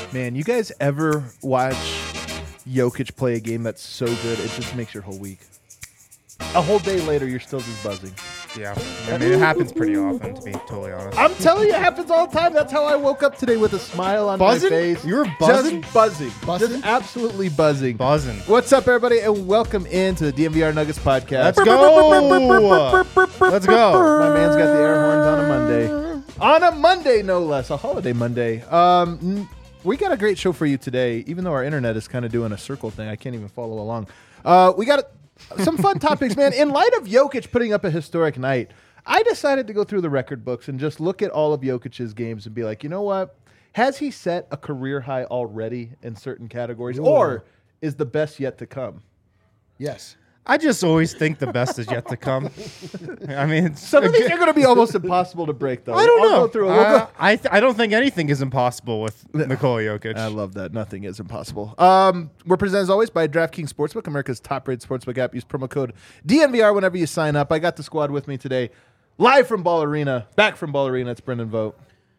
Man, you guys ever watch Jokic play a game that's so good, it just makes your whole week. A whole day later, you're still just buzzing. Yeah, I mean, it happens pretty often, to be totally honest. I'm telling you, it happens all the time. That's how I woke up today with a smile on Buzzing? my face. You were buzzing? Just buzzing. Buzzing? Just absolutely buzzing. Buzzing. What's up, everybody, and welcome into the DNVR Nuggets podcast. Let's go. Let's go. My man's got the air horns on a Monday. On a Monday, no less. A holiday Monday. We got a great show for you today, even though our internet is kind of doing a circle thing. I can't even follow along. We got some fun topics, man. In light of Jokic putting up a historic night, I decided to go through the record books and just look at all of Jokic's games and be like, you know what? Has he set a career high already in certain categories, or is the best yet to come? Yes. I just always think the best is yet to come. I mean, Some of these are going to be almost impossible to break, though. I don't know. I'll go through it. We'll go. I don't think anything is impossible with Nikola Jokic. I love that. Nothing is impossible. We're presented, as always, by DraftKings Sportsbook, America's top-rated sportsbook app. Use promo code DNVR whenever you sign up. I got the squad with me today. Live from Ball Arena. Back from Ball Arena. It's Brendan Vogt.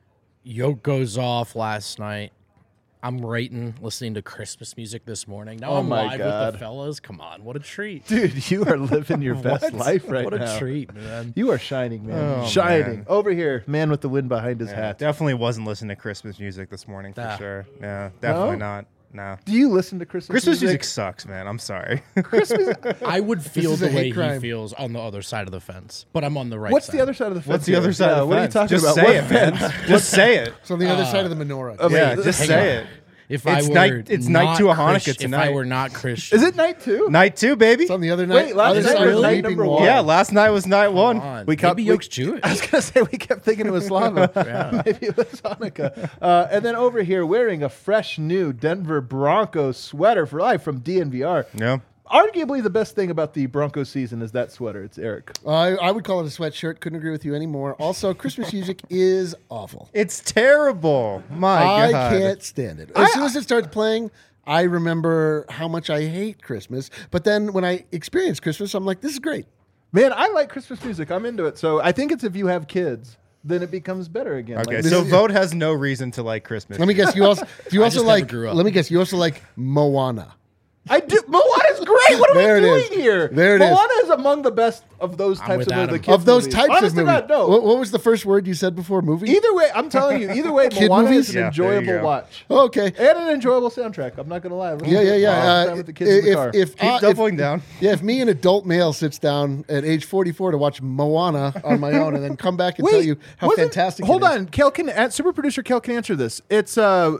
Yoke goes off last night. I'm writing, listening to Christmas music this morning. Now I'm my live God. with the fellas. Come on, what a treat. Dude, you are living your best life right what now. What a treat, man. You are shining, man. Oh, shining. man. Over here, man with the wind behind his Yeah, hat. definitely wasn't listening to Christmas music this morning for Ah. sure. Yeah, definitely No? not. No. Do you listen to Christmas Music sucks, man. I'm sorry. Christmas. I would feel is the a hate way he crime. feels on the other side of the fence, but I'm on the right What's side. the other side of the fence? What's the here? other side Yeah, of the what fence? are you talking Just about? say What it, man. fence? Just say it. It's on the other side of the menorah. Yeah, wait, just hang say on. it. If It's I were night- it's night not two of Hanukkah If I tonight. were not Christian. Is it night two? Night 2, baby. It's on the other night. Wait, last other night side was of the night weeping number wall. one. Yeah, last night was night 1. Come on. We cut- Maybe we- Yoke's Jewish. I was going to say, we kept thinking it was Slava. Maybe it was Hanukkah. And then over here, wearing a fresh new Denver Broncos sweater for life from DNVR. Yeah. Arguably the best thing about the Broncos season is that sweater. It's Eric. I would call it a sweatshirt. Couldn't agree with you anymore. Also, Christmas music is awful. It's terrible. My I God. can't stand it. As soon as it starts playing, I remember how much I hate Christmas. But then when I experience Christmas, I'm like, this is great. Man, I like Christmas music. I'm into it. So I think it's if you have kids, then it becomes better again. Okay, Like, so Vote has no reason to like Christmas. Let me guess. You also just never like. grew up. Let me guess. You also like Moana. I do. Moana's great. What are There it we is. doing here? There it is. Moana is among the best of those types with of Adam. the kids Of those movies. types Honest of to movies. God, no. What was the first word you said before? Movie. Either way, I'm telling you. Either way, Kid Moana movies? is an Yeah, there you enjoyable go. watch. Oh, okay. And an enjoyable soundtrack. I'm not going to lie. Yeah. Time with the kids in the car. Keep doubling down. Yeah, if me, an adult male, sits down at age 44 to watch Moana on my own and then come back and tell you how wasn't- fantastic Hold it is. on. Kel can, super producer Kel can answer this. It's,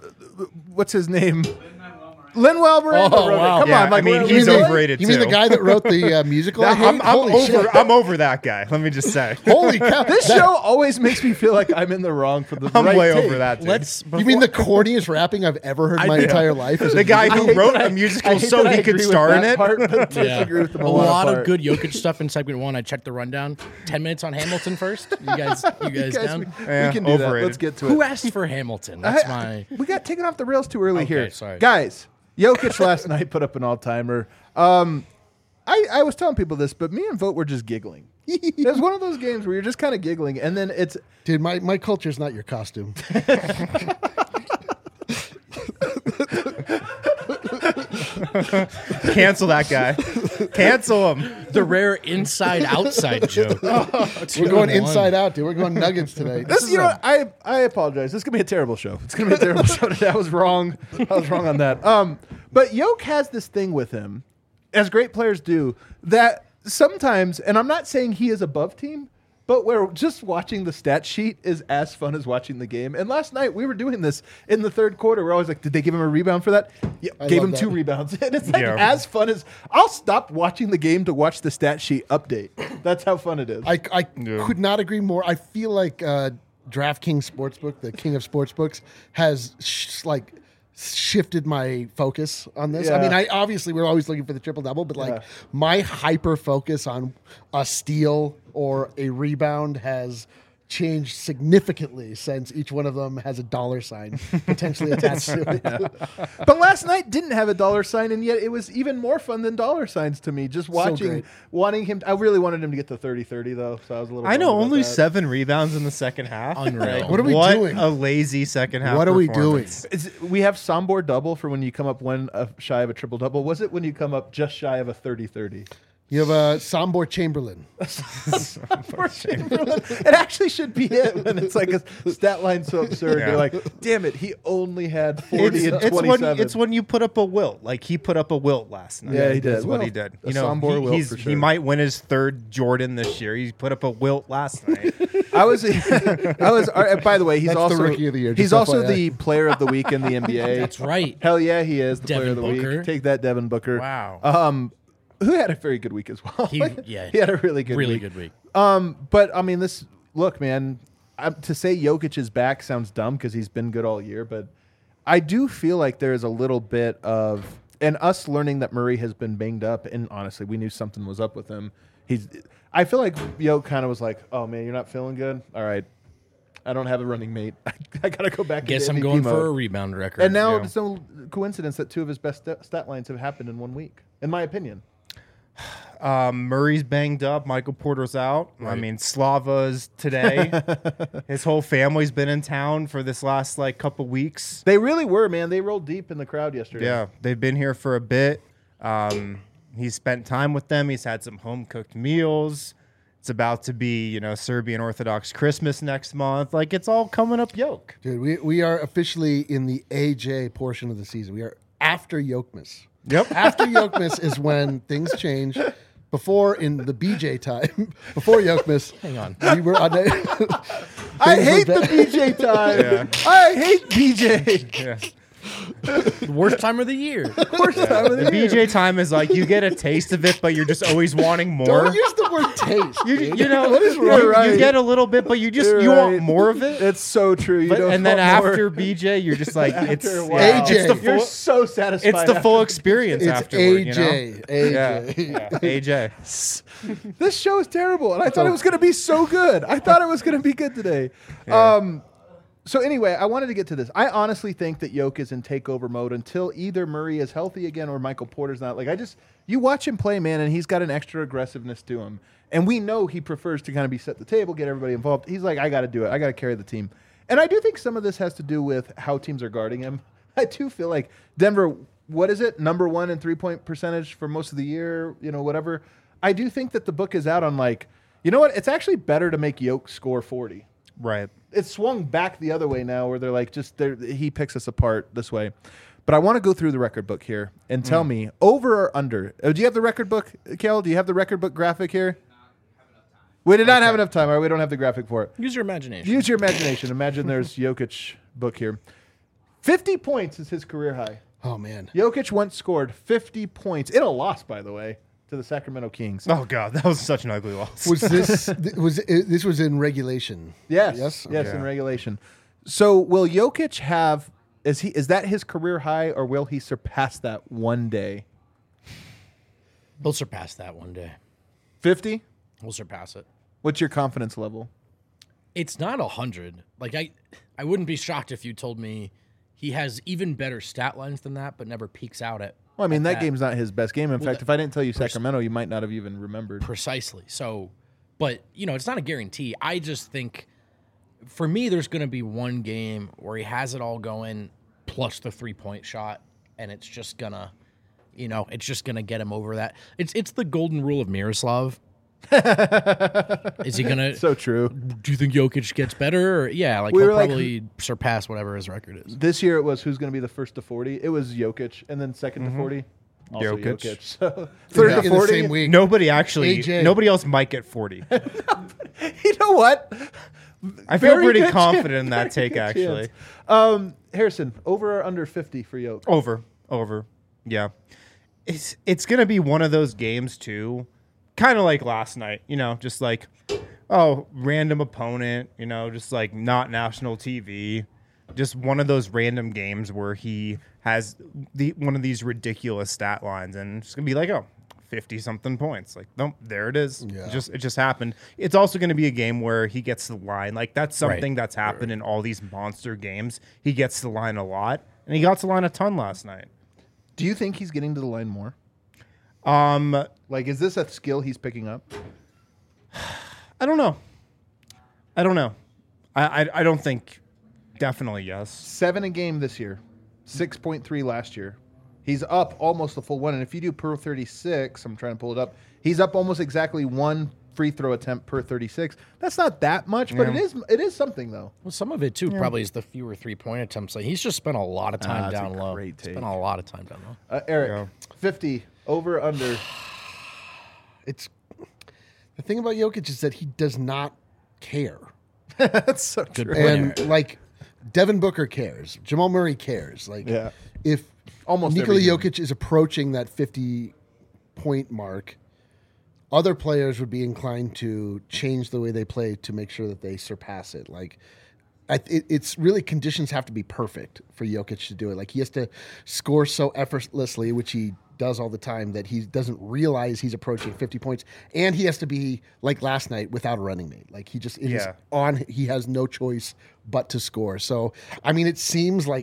what's his name? Lin-Manuel Miranda Oh, wrote it. wow. Come Yeah, on. Like, I mean, really? he's Really? overrated You mean too. the guy that wrote the musical? I hate? Holy shit. I'm over that guy. Let me just say. Holy cow. This show always makes me feel like I'm in the wrong for the I'm right way take. over that, dude. Let's. You mean the corniest rapping I've ever heard in my entire life? Is The guy I who hate wrote that I- a musical I hate so that I he could agree with star in that it? part, but Yeah. disagree with the A Moana lot part. of good Jokic stuff in segment 1. I checked the rundown. 10 minutes on Hamilton first. You guys down? we Yeah, can do that. overrated. Let's get to Who it. asked for Hamilton? That's my. We got taken off the rails too early Okay, here. sorry. Guys, Jokic last night put up an all-timer. I was telling people this, but me and Vogt were just giggling. It was one of those games where you're just kind of giggling, and then it's Dude, my culture's not your costume. Cancel that guy. Cancel him. The rare inside-outside joke. We're going inside out, dude. We're going Nuggets today. this. You know, I apologize. This is gonna be a terrible show. It's gonna be a terrible show today. I was wrong. I was wrong on that. But Jokic has this thing with him, as great players do, that sometimes, and I'm not saying he is above team, but where just watching the stat sheet is as fun as watching the game. And last night we were doing this in the third quarter. We're always like, did they give him a rebound for that? Yeah, I gave love him 2 that. rebounds. And it's like Yeah. as fun as I'll stop watching the game to watch the stat sheet update. That's how fun it is. I could not agree more. I feel like DraftKings Sportsbook, the king of sportsbooks, has shifted my focus on this. I Yeah. mean, obviously we're always looking for the triple double, but like Yeah. my hyper focus on a steal or a rebound has changed significantly since each one of them has a dollar sign potentially attached to it. But last night didn't have a dollar sign, and yet it was even more fun than dollar signs to me. Just watching, wanting him. I really wanted him to get to 30-30 though, so I was a little. I know bummed about only that. 7 rebounds in the second half. Unreal. What are we doing? A lazy second half. What are we doing? performance. We have Sombor double for when you come up shy of a triple double. Was it when you come up just shy of a 30-30? You have a Sombor Chamberlain. It actually should be it when it's like a stat line so absurd. Yeah. You're like, damn it, he only had 40 and 27. It's when you put up a wilt. Like he put up a wilt last night. Yeah, he did. That's what Well, he did. a You know, Sombor wilt for sure. he might win his 3rd Jordan this year. He put up a wilt last night. I was. By the way, he's That's the also rookie of the year, He's just also FYI. the player of the week in the NBA. That's right. Hell yeah, he is the Devin player of the Booker. week. Take that, Devin Booker. Wow. Who had a very good week as well. He had a really good week. week. But I mean, look, man. To say Jokic is back sounds dumb because he's been good all year, but I do feel like there is a little bit of, and us learning that Murray has been banged up, and honestly, we knew something was up with him. I feel like Jokic kind of was like, "Oh man, you're not feeling good. All right, I don't have a running mate. I gotta go back. Guess into I'm MVP going mode." for a rebound record. And now Yeah. it's no coincidence that 2 of his best stat lines have happened in 1 week, in my opinion. Murray's banged up. Michael Porter's out. I Right. mean, Slava's today. His whole family's been in town for this last couple weeks. They really were, man. They rolled deep in the crowd yesterday. Yeah, they've been here for a bit. He's spent time with them. He's had some home cooked meals. It's about to be, Serbian Orthodox Christmas next month. Like it's all coming up yoke. Dude, we are officially in the AJ portion of the season. We are after Yokmas. Yep. After Yokmas is when things change. Before, in the BJ time, before Yokmas, Hang on. we were on I hate the BJ time. Yeah. I hate BJ. Yeah. Worst time of the year. Worst time of The the year. BJ time is like you get a taste of it, but you're just always wanting more. Don't use the word taste. dude. What is wrong? You get a little bit, but you You're want right. more of it. It's so true. You don't And then want more. after BJ, you're just like it's After a while. AJ. It's the You're full, so satisfied. it's the after full experience It's afterward. AJ. AJ. AJ. This show is terrible, and I thought it was going to be so good. I thought it was going to be good today. So anyway, I wanted to get to this. I honestly think that Jokic is in takeover mode until either Murray is healthy again or Michael Porter's not. You watch him play, man, and he's got an extra aggressiveness to him. And we know he prefers to kind of be set the table, get everybody involved. He's like, I got to do it. I got to carry the team. And I do think some of this has to do with how teams are guarding him. I do feel like Denver, what is it? Number 1 in 3-point percentage for most of the year, whatever. I do think that the book is out on you know what? It's actually better to make Jokic score 40. Right. It's swung back the other way now where they're like, he picks us apart this way. But I want to go through the record book here and tell me over or under. Do you have the record book, Kel? Do you have the record book graphic here? We did not have enough time. All right, we don't have the graphic for it. Use your imagination. Use your imagination. Imagine there's Jokic book here. 50 points is his career high. Oh, man. Jokic once scored 50 points in a loss, by the way, to the Sacramento Kings. Oh God, that was such an ugly loss. Was this this was in regulation? Yes. Yes? Yes, Okay. in regulation. So will Jokic have is that his career high, or will he surpass that one day? He'll surpass that one day. 50? We'll surpass it. What's your confidence level? It's not 100. I wouldn't be shocked if you told me he has even better stat lines than that, but never peaks out at. Well, I mean, at that game's not his best game. In fact, that- if I didn't tell you Sacramento, you might not have even remembered. Precisely. So, but it's not a guarantee. I just think, for me, there's going to be one game where he has it all going, plus the 3-point shot, and it's just gonna, get him over that. It's the golden rule of Miroslav. Is he gonna? So true. Do you think Jokic gets better? Or, yeah, We he'll were like- probably surpass whatever his record is. This year it was who's going to be the first to 40. It was Jokic, and then second to 40, also Jokic. Jokic. So third In to the 40. same week. Nobody AJ. else might get 40. You know what? I feel Very pretty good confident chance. in that take, Very good actually. chance. Harrison, over or under 50 for Jokic? Over. Yeah. It's going to be one of those games, too, kind of like last night, just like, random opponent, just like not national TV. Just one of those random games where he has one of these ridiculous stat lines, and it's going to be like, 50-something points. Like, nope, there it is. Yeah. It just happened. It's also going to be a game where he gets the line. Like, that's something Right. that's happened in all these monster games. He gets the line a lot, and he got to the line a ton last night. Do you think he's getting to the line more? Um, Like, is this a skill he's picking up? I don't know. I don't think. Definitely yes. 7 a game this year, 6.3 last year. He's up almost a full one. And if you do per 36, I'm trying to pull it up, he's up almost exactly 1 free throw attempt per 36. That's not that much, but Yeah. it is something, though. Well, some of it too probably is the fewer 3-point attempts. Like he's just spent a lot of time that's a down low. great take. Spent a lot of time down low. Eric, 50, over, under. It's the thing about Jokic is that he does not care. That's so Good true. point. And like Devin Booker cares. Jamal Murray cares. Like Yeah. if Almost Nikola every game. Jokic is approaching that 50-point mark, other players would be inclined to change the way they play to make sure that they surpass it. Like it's really conditions have to be perfect for Jokic to do it. Like he has to score so effortlessly, which he does all the time, that he doesn't realize he's approaching 50 points, and he has to be like last night without a running mate. Like it is on. He has no choice but to score. So I mean, it seems like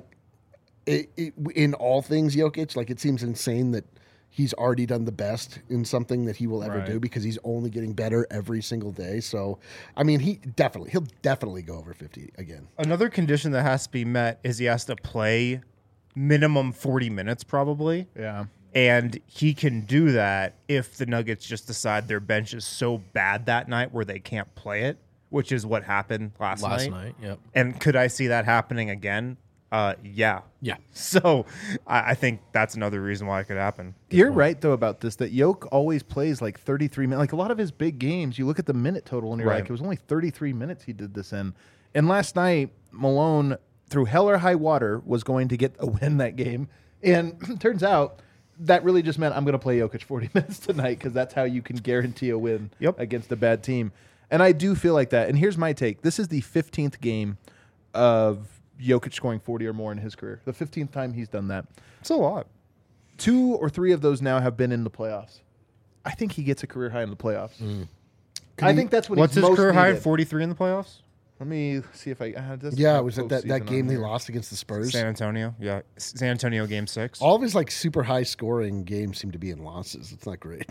in all things Jokic, like it seems insane that he's already done the best in something that he will ever do, because he's only getting better every single day. So I mean, he'll definitely go over 50 again. Another condition that has to be met is he has to play minimum 40 minutes probably. Yeah. And he can do that if the Nuggets just decide their bench is so bad that night where they can't play it, which is what happened last night. Yep. And could I see that happening again? Yeah. Yeah. So I think that's another reason why it could happen. You're right, though, about this, that Yoke always plays like 33 minutes. Like a lot of his big games, you look at the minute total and you're Right. like, it was only 33 minutes he did this in. And last night, Malone, through hell or high water, was going to get a win that game. And turns out that really just meant I'm going to play Jokic 40 minutes tonight, because that's how you can guarantee a win against a bad team. And I do feel like that. And here's my take. This is the 15th game of Jokic scoring 40 or more in his career. The 15th time he's done that. It's a lot. 2 or 3 of those now have been in the playoffs. I think he gets a career high in the playoffs. I think that's what What's he's his most career high? needed. 43 in the playoffs? Let me see if I. Yeah, it was that game they lost against the Spurs. San Antonio. Yeah. San Antonio game 6. All of his like super high scoring games seem to be in losses. It's not great.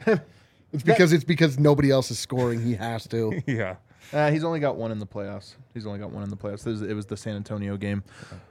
It's because nobody else is scoring. He has to. Yeah. He's only got 1 in the playoffs. It was the San Antonio game.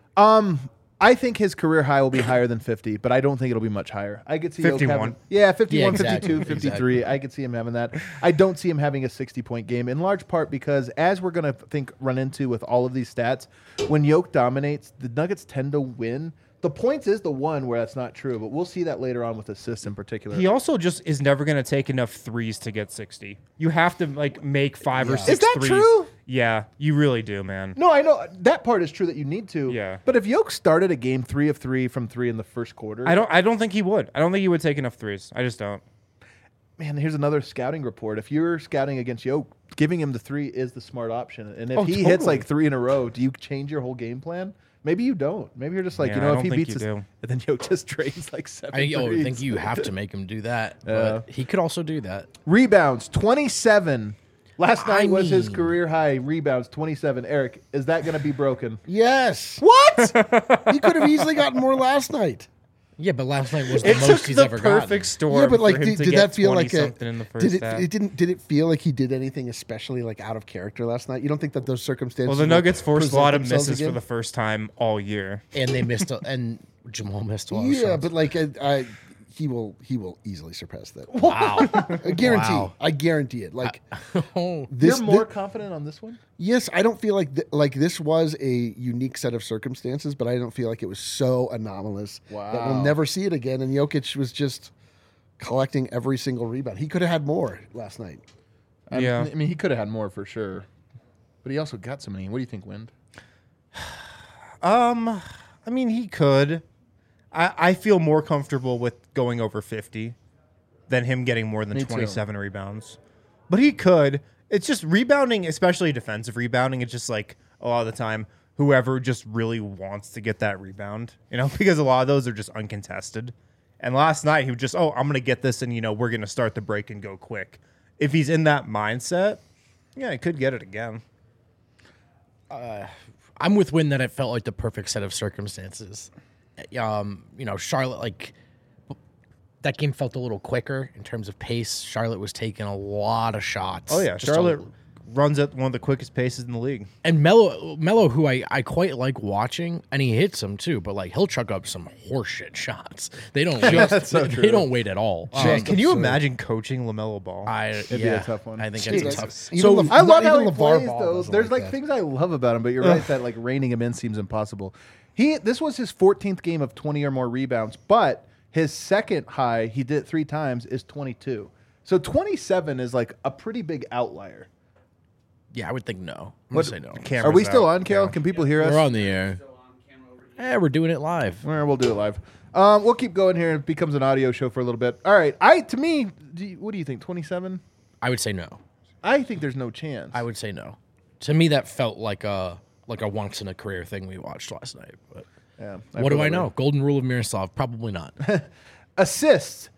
I think his career high will be higher than 50, but I don't think it'll be much higher. I could see Jokic 51. having, 51, Yeah, exactly. 52, 53. I could see him having that. I don't see him having a 60-point game, in large part because, as we're going to run into with all of these stats, when Yoke dominates, the Nuggets tend to win. The points is the one where that's not true, but we'll see that later on with assists in particular. He also just is never going to take enough threes to get 60. You have to like make 5 or 6 Is that threes. true? Yeah, you really do, man. No, I know that part is true that you need to. Yeah. But if Yoke started a game 3 of 3 from 3 in the first quarter, I don't think he would. I don't think he would take enough threes. I just don't. man, here's another scouting report. If you're scouting against Yoke, giving him the 3 is the smart option. And if he hits like 3 in a row, do you change your whole game plan? Maybe you don't. Maybe you're just like, Yeah, I if don't he think beats us, you and do. then Yoke just drains like 7 I threes. think you have to make him do that. But he could also do that. Rebounds, 27. Last night was his mean- career high. Rebounds, 27. Eric, is that going to be broken? Yes. What? He could have easily gotten more last night. Yeah, but last night was the It most took he's the ever perfect gotten. storm. Yeah, but like, for him to did get that feel 20 like something in the first did it? half. It didn't. Did it feel like he did anything especially like out of character last night? You don't think that those circumstances? Well, the would Nuggets forced a present lot of themselves misses for again? the first time all year. And they missed and Jamal missed a lot of Yeah, shots. but like he will easily surpass that. Wow. I guarantee. Wow. I guarantee it. Like Oh, this. You're more confident on this one? Yes, I don't feel like like this was a unique set of circumstances, but I don't feel like it was so anomalous that Wow. we'll never see it again. And Jokic was just collecting every single rebound. He could have had more last night. Yeah. I mean, he could have had more for sure. But he also got so many. What do you think, Wind? I mean, he could. I feel more comfortable with going over 50 than him getting more than Me too. 27 rebounds. But he could. It's just rebounding, especially defensive rebounding. It's just like a lot of the time, whoever just really wants to get that rebound, because a lot of those are just uncontested. And last night he was just, I'm going to get this and, we're going to start the break and go quick. If he's in that mindset, yeah, he could get it again. I'm with Win that it felt like the perfect set of circumstances. Charlotte, like, that game felt a little quicker in terms of pace. Charlotte was taking a lot of shots. Oh, yeah. Charlotte runs at one of the quickest paces in the league. And Melo, who I quite like watching, and he hits them too, but like he'll chuck up some horseshit shots. They don't they don't wait at all. Can you imagine coaching LaMelo Ball? It'd be a tough one. I think it's tough. So I love how he LeVar plays, Ball though. doesn't There's like like that. things I love about him, but you're right that like reining him in seems impossible. This was his 14th game of 20 or more rebounds, but his second high, he did it 3 times, is 22. So 27 is like a pretty big outlier. Yeah, I would think no. I'm going to say no. Are we still out. on, Kale? Yeah. Can people hear us? We're on the air. We're doing it live. We'll do it live. We'll keep going here. It becomes an audio show for a little bit. All right. What do you think? 27? I would say no. I think there's no chance. I would say no. To me, that felt like a once in a career thing we watched last night. But Yeah. what do I know? Golden rule of Miroslav? Probably not. Assists,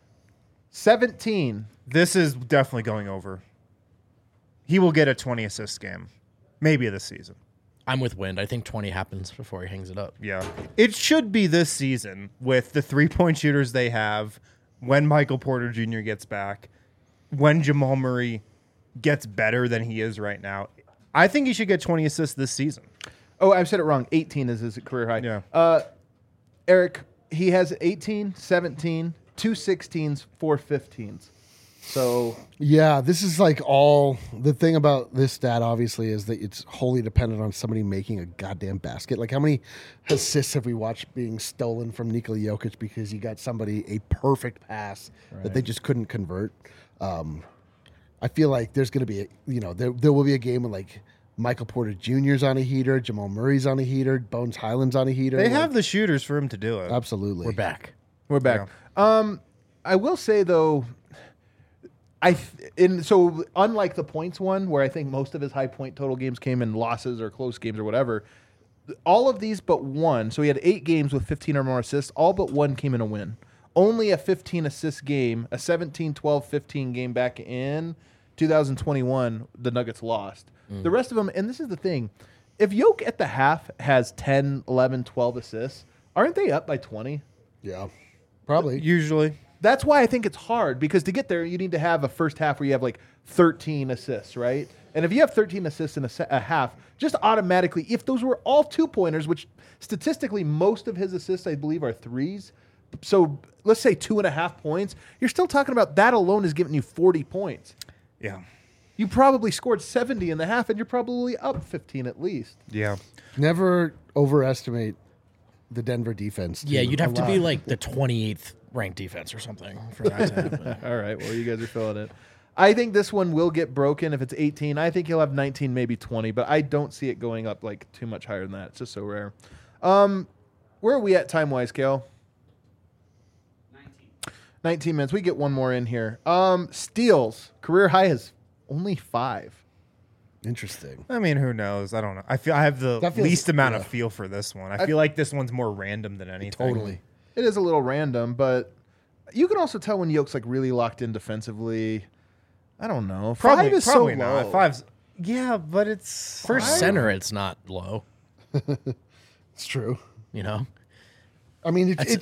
17. This is definitely going over. He will get a 20 assist game, maybe this season. I'm with Wind. I think 20 happens before he hangs it up. Yeah. It should be this season with the 3-point shooters they have, when Michael Porter Jr. gets back, when Jamal Murray gets better than he is right now. I think he should get 20 assists this season. Oh, I said it wrong. 18 is his career high. Yeah. Eric, he has 18, 17, 2 16s, 4 15s. So Yeah, this is like all the thing about this stat. Obviously, is that it's wholly dependent on somebody making a goddamn basket. Like, how many assists have we watched being stolen from Nikola Jokic because he got somebody a perfect pass that they just couldn't convert? I feel like there's going to be, there will be a game with like Michael Porter Jr.'s on a heater, Jamal Murray's on a heater, Bones Highland's on a heater. They have the shooters for him to do it. Absolutely. We're back. we're back. I will say though, so unlike the points one, where I think most of his high point total games came in losses or close games or whatever, all of these but one. So he had 8 games with 15 or more assists. All but one came in a win. Only a 15 assist game, a 17, 12, 15 game back in 2021, the Nuggets lost. The rest of them, and this is the thing, if Yoke at the half has 10, 11, 12 assists, aren't they up by 20? Yeah, probably. Usually. That's why I think it's hard, because to get there, you need to have a first half where you have like 13 assists, right? And if you have 13 assists in a half, just automatically, if those were all 2-pointers, which statistically most of his assists, I believe, are 3s, so let's say 2.5 points, you're still talking about that alone is giving you 40 points. Yeah. You probably scored 70 in the half, and you're probably up 15 at least. Yeah. Never overestimate the Denver defense. Yeah, too. you'd have A to lot. be like the 28th ranked defense or something for that to happen. All right, well, you guys are feeling it. I think this one will get broken if it's 18. I think he'll have 19, maybe 20, but I don't see it going up like too much higher than that. It's just so rare. Where are we at time-wise, Kale? 19 minutes. We get one more in here. Steals. Career high is only 5. Interesting. I mean, who knows? I don't know. I have the That feels- least amount of yeah. feel for this one. I feel like this one's more random than anything. Totally. It is a little random, but you can also tell when Yoke's like really locked in defensively. I don't know. Probably, 5 is probably so not. low. 5's, yeah, but it's For center, it's not low, It's true. you know? I mean, the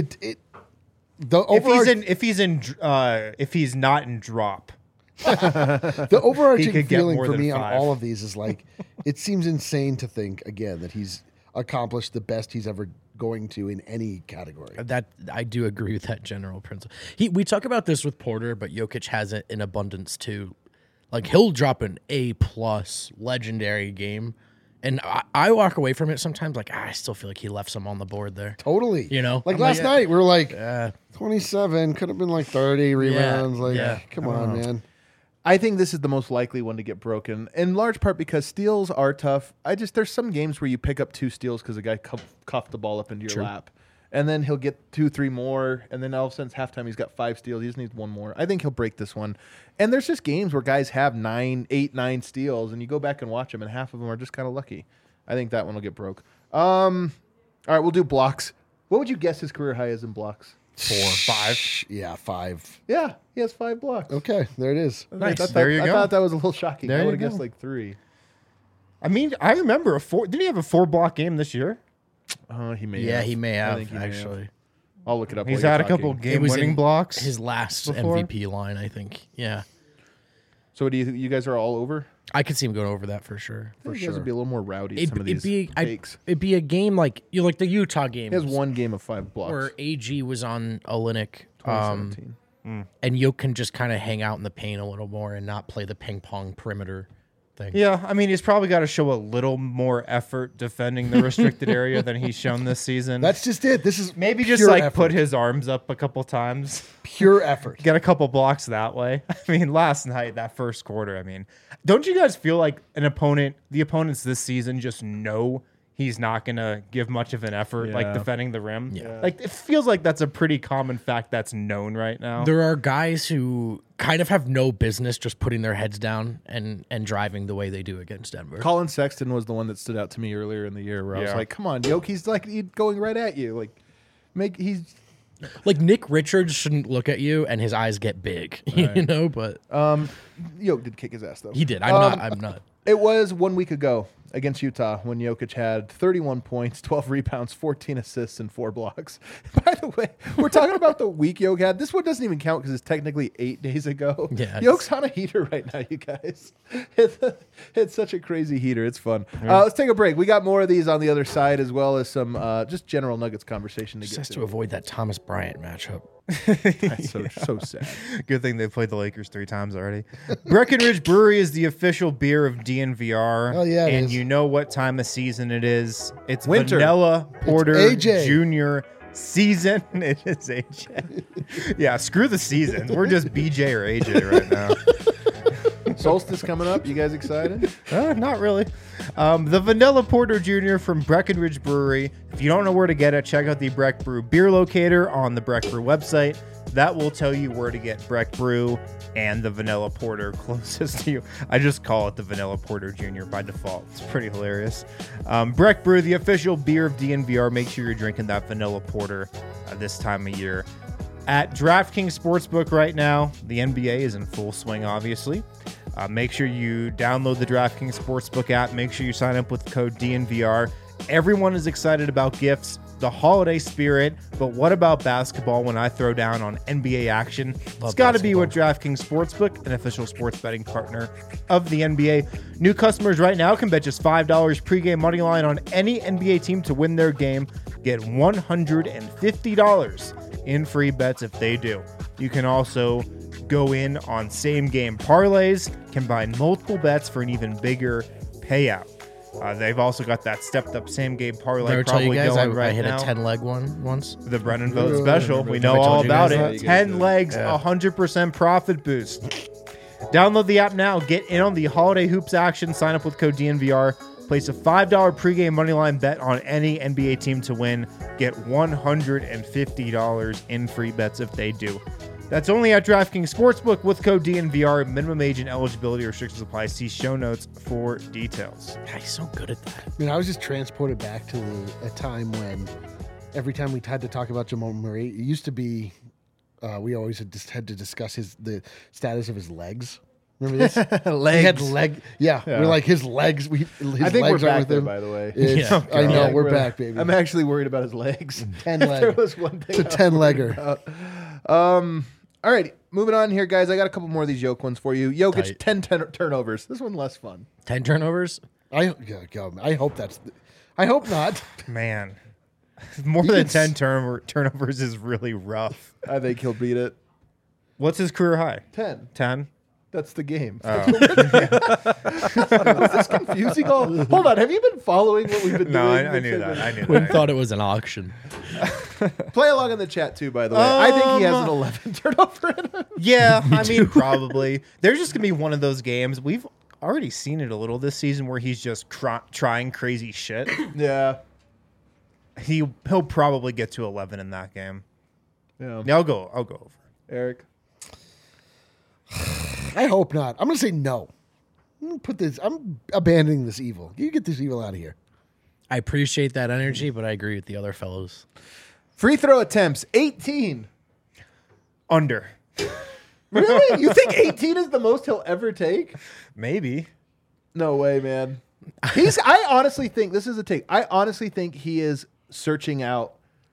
if he's not in drop. the overarching could get feeling more for than me on 5. all of these is like, it seems insane to think again that he's accomplished the best he's ever going to in any category. That I do agree with that general principle. We talk about this with Porter, but Jokic has it in abundance too. Like, he'll drop an A+ legendary game, and I walk away from it sometimes like, I still feel like he left some on the board there. Totally. You know? like I'm last night, we were like, Uh, 27 could have been like 30 rebounds. Like, yeah. come on, man. I think this is the most likely one to get broken, in large part because steals are tough. There's some games where you pick up 2 steals because the guy cuffed the ball up into your lap, and then he'll get 2, 3 more, and then all of a sudden, it's halftime, he's got 5 steals. He just needs 1 more. I think he'll break this one. And there's just games where guys have 8, 9 steals, and you go back and watch them, and half of them are just kind of lucky. I think that one will get broke. All right, we'll do blocks. What would you guess his career high is in blocks? 4, 5. Yeah, 5. Yeah, he has 5 blocks. Okay, there it is. Nice. There you I go. thought that was a little shocking. There I you would have go. guessed like 3. I mean, I remember didn't he have a 4-block game this year? He may. Yeah, have. he may I have think he may have. actually. I'll look it up. He's while had a you're couple talking. It was game-winning in blocks. His last before. MVP line, I think. Yeah, So, do you guys are all over? I could see him going over that for sure. I think you guys would be a little more rowdy. It'd, some of it'd these be takes. it'd be a game like like the Utah game. He has 1 game of 5 blocks. where AG was on Olynyk, 2017. and Yoke can just kind of hang out in the paint a little more and not play the ping pong perimeter thing. Yeah, I mean, he's probably got to show a little more effort defending the restricted area than he's shown this season. That's just it. This is Maybe just pure like effort. put his arms up a couple times, pure effort. get a couple blocks that way. I mean, last night, that first quarter, I mean, don't you guys feel like the opponents this season just know he's not going to give much of an effort like Yeah. defending the rim? Yeah. Like, it feels like that's a pretty common fact that's known right now. There are guys who kind of have no business just putting their heads down and driving the way they do against Denver. Colin Sexton was the one that stood out to me earlier in the year, where I was Yeah. like, "Come on, Yoke, he's going right at you. Like, he's Like Nick Richards shouldn't look at you and his eyes get big, you know. But Yoke did kick his ass though. he did. I'm not. It was 1 week ago against Utah when Jokic had 31 points, 12 rebounds, 14 assists, and 4 blocks. By the way, we're talking about the week Jokic had. This one doesn't even count because it's technically 8 days ago. Yeah, Jokic on a heater right now, you guys. It's such a crazy heater. It's fun. Let's take a break. We got more of these on the other side, as well as some just general Nuggets conversation to Just get has to. to avoid that Thomas Bryant matchup. That's so sad. Good thing they played the Lakers 3 times already. Breckenridge Brewery is the official beer of DNVR. Oh, yeah, it and is. you know what time of season it is. It's Winter. Vanilla Porter AJ. Junior season. It is AJ. Yeah, screw the seasons. We're just BJ or AJ right now. Solstice coming up. You guys excited? Not really. The Vanilla Porter Jr. from Breckenridge Brewery. If you don't know where to get it, check out the Breck Brew beer locator on the Breck Brew website. That will tell you where to get Breck Brew and the Vanilla Porter closest to you. I just call it the Vanilla Porter Jr. by default. It's pretty hilarious. Breck Brew, the official beer of DNVR. Make sure you're drinking that Vanilla Porter this time of year. At DraftKings Sportsbook right now, the NBA is in full swing, obviously. Make sure you download the DraftKings Sportsbook app. Make sure you sign up with the code DNVR. Everyone is excited about gifts, the holiday spirit, but what about basketball when I throw down on NBA action? It's got to be with DraftKings Sportsbook, an official sports betting partner of the NBA. New customers right now can bet just $5 pregame money line on any NBA team to win their game. Get $150 in free bets if they do. You can also go in on same game parlays, combine multiple bets for an even bigger payout. They've also got that stepped up same game parlay Never tell you probably guys going I right hit now. a 10-leg one once. The Brennan Vote special. We I know told all you about guys it. that? 10 legs, 100% profit boost. Download the app now. Get in on the holiday hoops action. Sign up with code DNVR. Place a $5 pregame moneyline bet on any NBA team to win. Get $150 in free bets if they do. That's only at DraftKings Sportsbook with code DNVR. Minimum age and eligibility restrictions apply. See show notes for details. God, he's so good at that. I mean, I was just transported back to a time when every time we had to talk about Jamal Murray, it used to be we always had to discuss the status of his legs. Remember this? Legs. He had leg. Yeah, Yeah. we're like his legs. His I think we're legs are back with there, him. by the way. It's- Yeah. I know Yeah, we're back, baby. I'm actually worried about his legs. 10 If there leg. was one thing. It's a 10-legger. All right, moving on here, guys. I got a couple more of these Joke ones for you. Jokic, Tight. 10 turnovers. This one less fun. 10 turnovers? I hope that's. I hope not. Man, more than 10 turnovers is really rough. I think he'll beat it. What's his career high? 10. 10? That's the game. Is this confusing? Oh, hold on. Have you been following what we've been No, doing? I knew that. I knew Wouldn't that. thought it was an auction. Play along in the chat, too, by the way. I think he has an 11 turnover in him. Yeah, I mean, probably. There's just going to be one of those games. We've already seen it a little this season where he's just trying crazy shit. Yeah. He'll probably get to 11 in that game. Yeah. Yeah, I'll go over. Eric. I hope not. I'm gonna say no. I'm abandoning this evil. You get this evil out of here. I appreciate that energy, but I agree with the other fellows. Free throw attempts, 18. Under. Really? You think 18 is the most he'll ever take? Maybe. No way, man. I honestly think, this is a take, I honestly think he is searching out,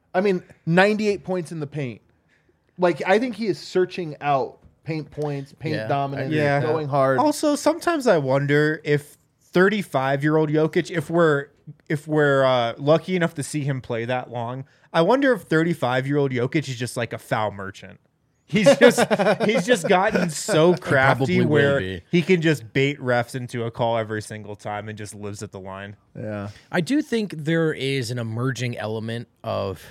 98 points in the paint. Like, I think he is searching out paint points, paint dominance, going hard. Also, sometimes I wonder if 35-year-old Jokic, if we're lucky enough to see him play that long, I wonder if 35-year-old Jokic is just like a foul merchant. He's just gotten so crafty probably where will be. he can just bait refs into a call every single time and just lives at the line. Yeah. I do think there is an emerging element of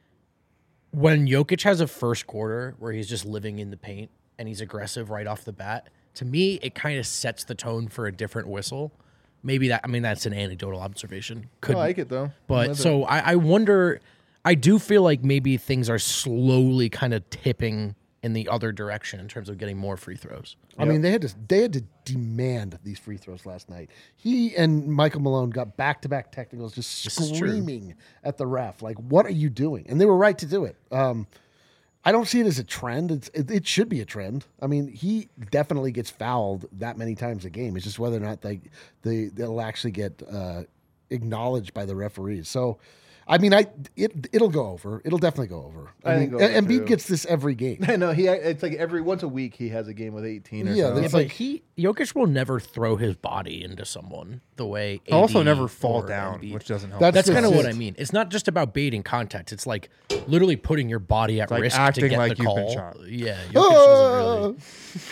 when Jokic has a first quarter where he's just living in the paint and he's aggressive right off the bat. To me, it kind of sets the tone for a different whistle. Maybe that's an anecdotal observation. I like it, though. But so I wonder, I do feel like maybe things are slowly kind of tipping in the other direction in terms of getting more free throws. I mean, they had to demand these free throws last night. He and Michael Malone got back-to-back technicals, just screaming at the ref, like, "What are you doing?" And they were right to do it. I don't see it as a trend. It should be a trend. I mean, he definitely gets fouled that many times a game. It's just whether or not they'll actually get acknowledged by the referees. So, I mean, it'll go over. It'll definitely go over. I mean, Embiid gets this every game. I know it's like every once a week he has a game with 18 or Yeah, something. that's But like Jokic will never throw his body into someone the way AD Also, never fall or down, Embiid. which doesn't help. That's kind of what it. I mean. It's not just about baiting contact. It's like literally putting your body at like risk to acting get like the you've been call. shot. Yeah, Jokic doesn't really.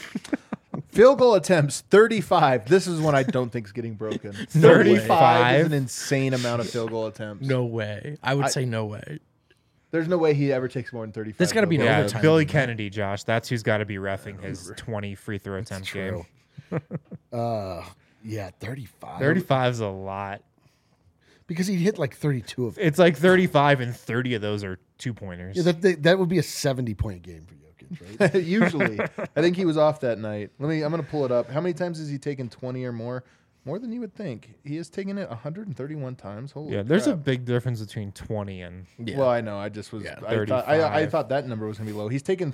Field goal attempts, 35. This is one I don't think is getting broken. 35 is an insane amount of field goal attempts. No way. I would say no way. There's no way he ever takes more than 35. There's gotta be field an goals. Yeah, overtime. Billy Kennedy, Josh. That's who's got to be reffing his 20 free throw attempt game. Yeah, 35. 35 is a lot. Because he hit like 32 of them. It's like 35, and 30 of those are 2-pointers. Yeah, that would be a 70-point game for Jokic, right? Usually. I think he was off that night. I'm going to pull it up. How many times has he taken 20 or more? More than you would think. He has taken it 131 times. Holy Yeah, there's a crap. big difference between 20 and Yeah. Well, I know. I just was. Yeah, I 35. thought that number was going to be low. He's taken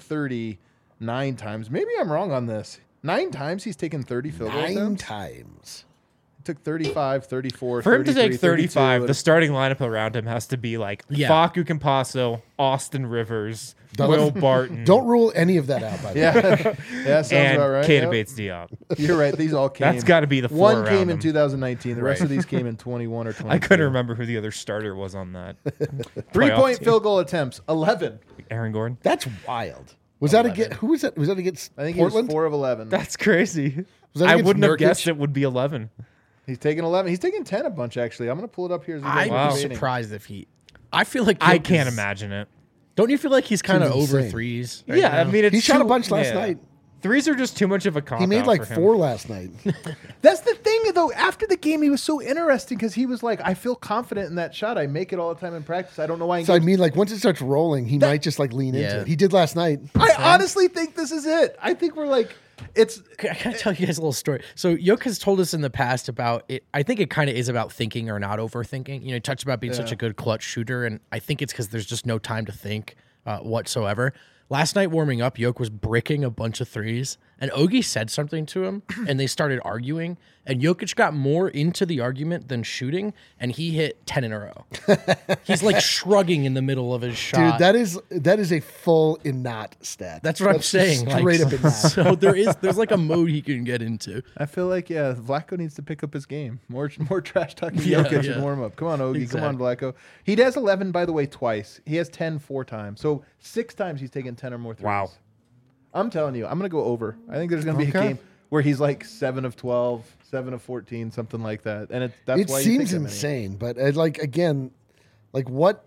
39 times. Maybe I'm wrong on this. 9 times he's taken 30 field goal 9 attempts. times. He took 35, 34, for him to 33, take 35, 32. the starting lineup around him has to be like Yeah. Facu Campasso, Austin Rivers, Don't- Will Barton, Don't rule any of that out, by the way. Yeah, sounds and about right. Keita Yep. Bates Diop. You're right. These all came. That's got to be the four One around came in him. 2019. The rest Right. of these came in 21 or 22. I couldn't remember who the other starter was on that. 3-point team. field goal attempts, 11. Aaron Gordon. That's wild. Was that against who was that? Was that against I think Portland? he was 4 of 11. That's crazy. Was that I against wouldn't have Nurkic? guessed it would be 11. He's taken 11. He's taken 10 a bunch, actually. I'm going to pull it up here. As we go I'd through Wow. the be rating. surprised if he. I feel like I Jokic can't is- imagine it. Don't you feel like he's kind of Seems over insane. threes? right Yeah, now? I mean, it's He shot a too- bunch last yeah. night. Threes are just too much of a cop He made out like for him. 4 last night. That's the thing, though. After the game, he was so interesting because he was like, I feel confident in that shot. I make it all the time in practice. I don't know why. So I mean, like once it starts rolling, he might just like lean into Yeah. it. He did last night. I honestly think this is it. I think we're like, it's. I gotta tell you guys a little story. So Jokic has told us in the past about it. I think it kind of is about thinking or not overthinking. You know, he talks about being such a good clutch shooter, and I think it's because there's just no time to think whatsoever. Last night warming up, Jokic was bricking a bunch of threes, and Ogie said something to him, and they started arguing. And Jokic got more into the argument than shooting, and he hit 10 in a row. He's like shrugging in the middle of his shot. Dude, that is a full in knot stat. That's what I'm saying. Straight up in knot. So there's like a mode he can get into. I feel like, yeah, Vlatko needs to pick up his game. More trash talking Yeah, Jokic yeah. and warm up. Come on, Ogie. Exactly. Come on, Vlatko. He has 11, by the way, twice. He has 10 4 times. So 6 times he's taken 10 or more threes. Wow. I'm telling you, I'm going to go over. I think there's going to be a Okay. game where he's like 7 of 12, 7 of 14, something like that. And that's It why you seems take that many. insane, but like again, like what